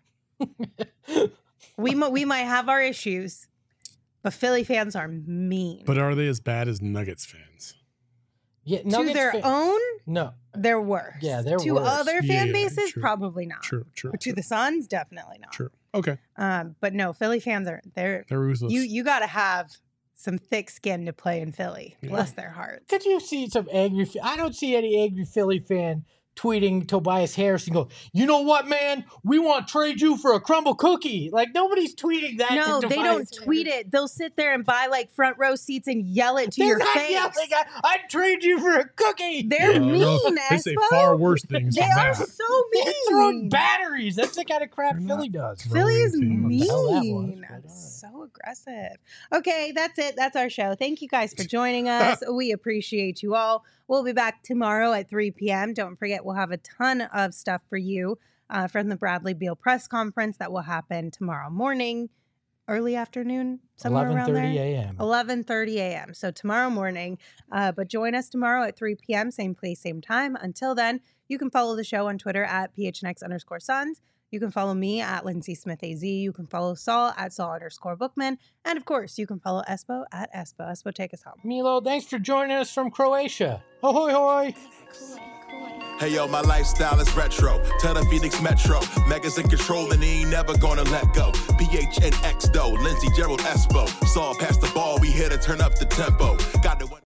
we mo- we might have our issues, but Philly fans are mean.
But are they as bad as Nuggets fans?
Yeah,
to
Nuggets
their
fa-
own,
No.
there were.
Yeah, there
To
were.
other
Yeah,
fan
yeah,
bases,
true.
probably not.
True, true.
But to
true,
the Suns, definitely not.
true. Okay.
Um, but no, Philly fans are they're
They're ruthless.
you you got to have some thick skin to play in Philly.
Yeah.
Bless their hearts.
Could you see some angry? I don't see any angry Philly fan tweeting Tobias Harris and go, you know what, man? We want to trade you for a crumble cookie. Like, nobody's tweeting that.
No,
to
they
Tobias
don't
Harris.
tweet it. They'll sit there and buy like front row seats and yell it to
They're
your
not
face.
yelling, I, I'd trade you for a cookie.
They're
Uh,
mean,
no, they say
Espo.
far worse things
They
than
are
that.
so
They're throwing
mean.
batteries. That's the kind of crap
They're
Philly
not-
does.
Philly is
throwing teams.
What the hell that was,
mean.
but all right.
So aggressive. Okay, that's it. That's our show. Thank you guys for joining us. We appreciate you all. We'll be back tomorrow at three p.m. Don't forget, we'll have a ton of stuff for you uh, from the Bradley Beal press conference that will happen tomorrow morning, early afternoon, somewhere around there.
eleven thirty a.m.
eleven thirty a.m. So tomorrow morning. Uh, but join us tomorrow at three p.m. Same place, same time. Until then, you can follow the show on Twitter at P H N X underscore Suns. You can follow me at Lindsay Smith A Z. You can follow Saul at Saul underscore Bookman. And of course, you can follow Espo at Espo. Espo, take us home.
Milo, thanks for joining us from Croatia. Ahoy, hoy.
Hey yo, my lifestyle is retro. Tell the Phoenix Metro. Megas in control and he ain't never gonna let go. P H N X though, Lindsey Gerald Espo. Saw past the ball, we here to turn up the tempo. Got the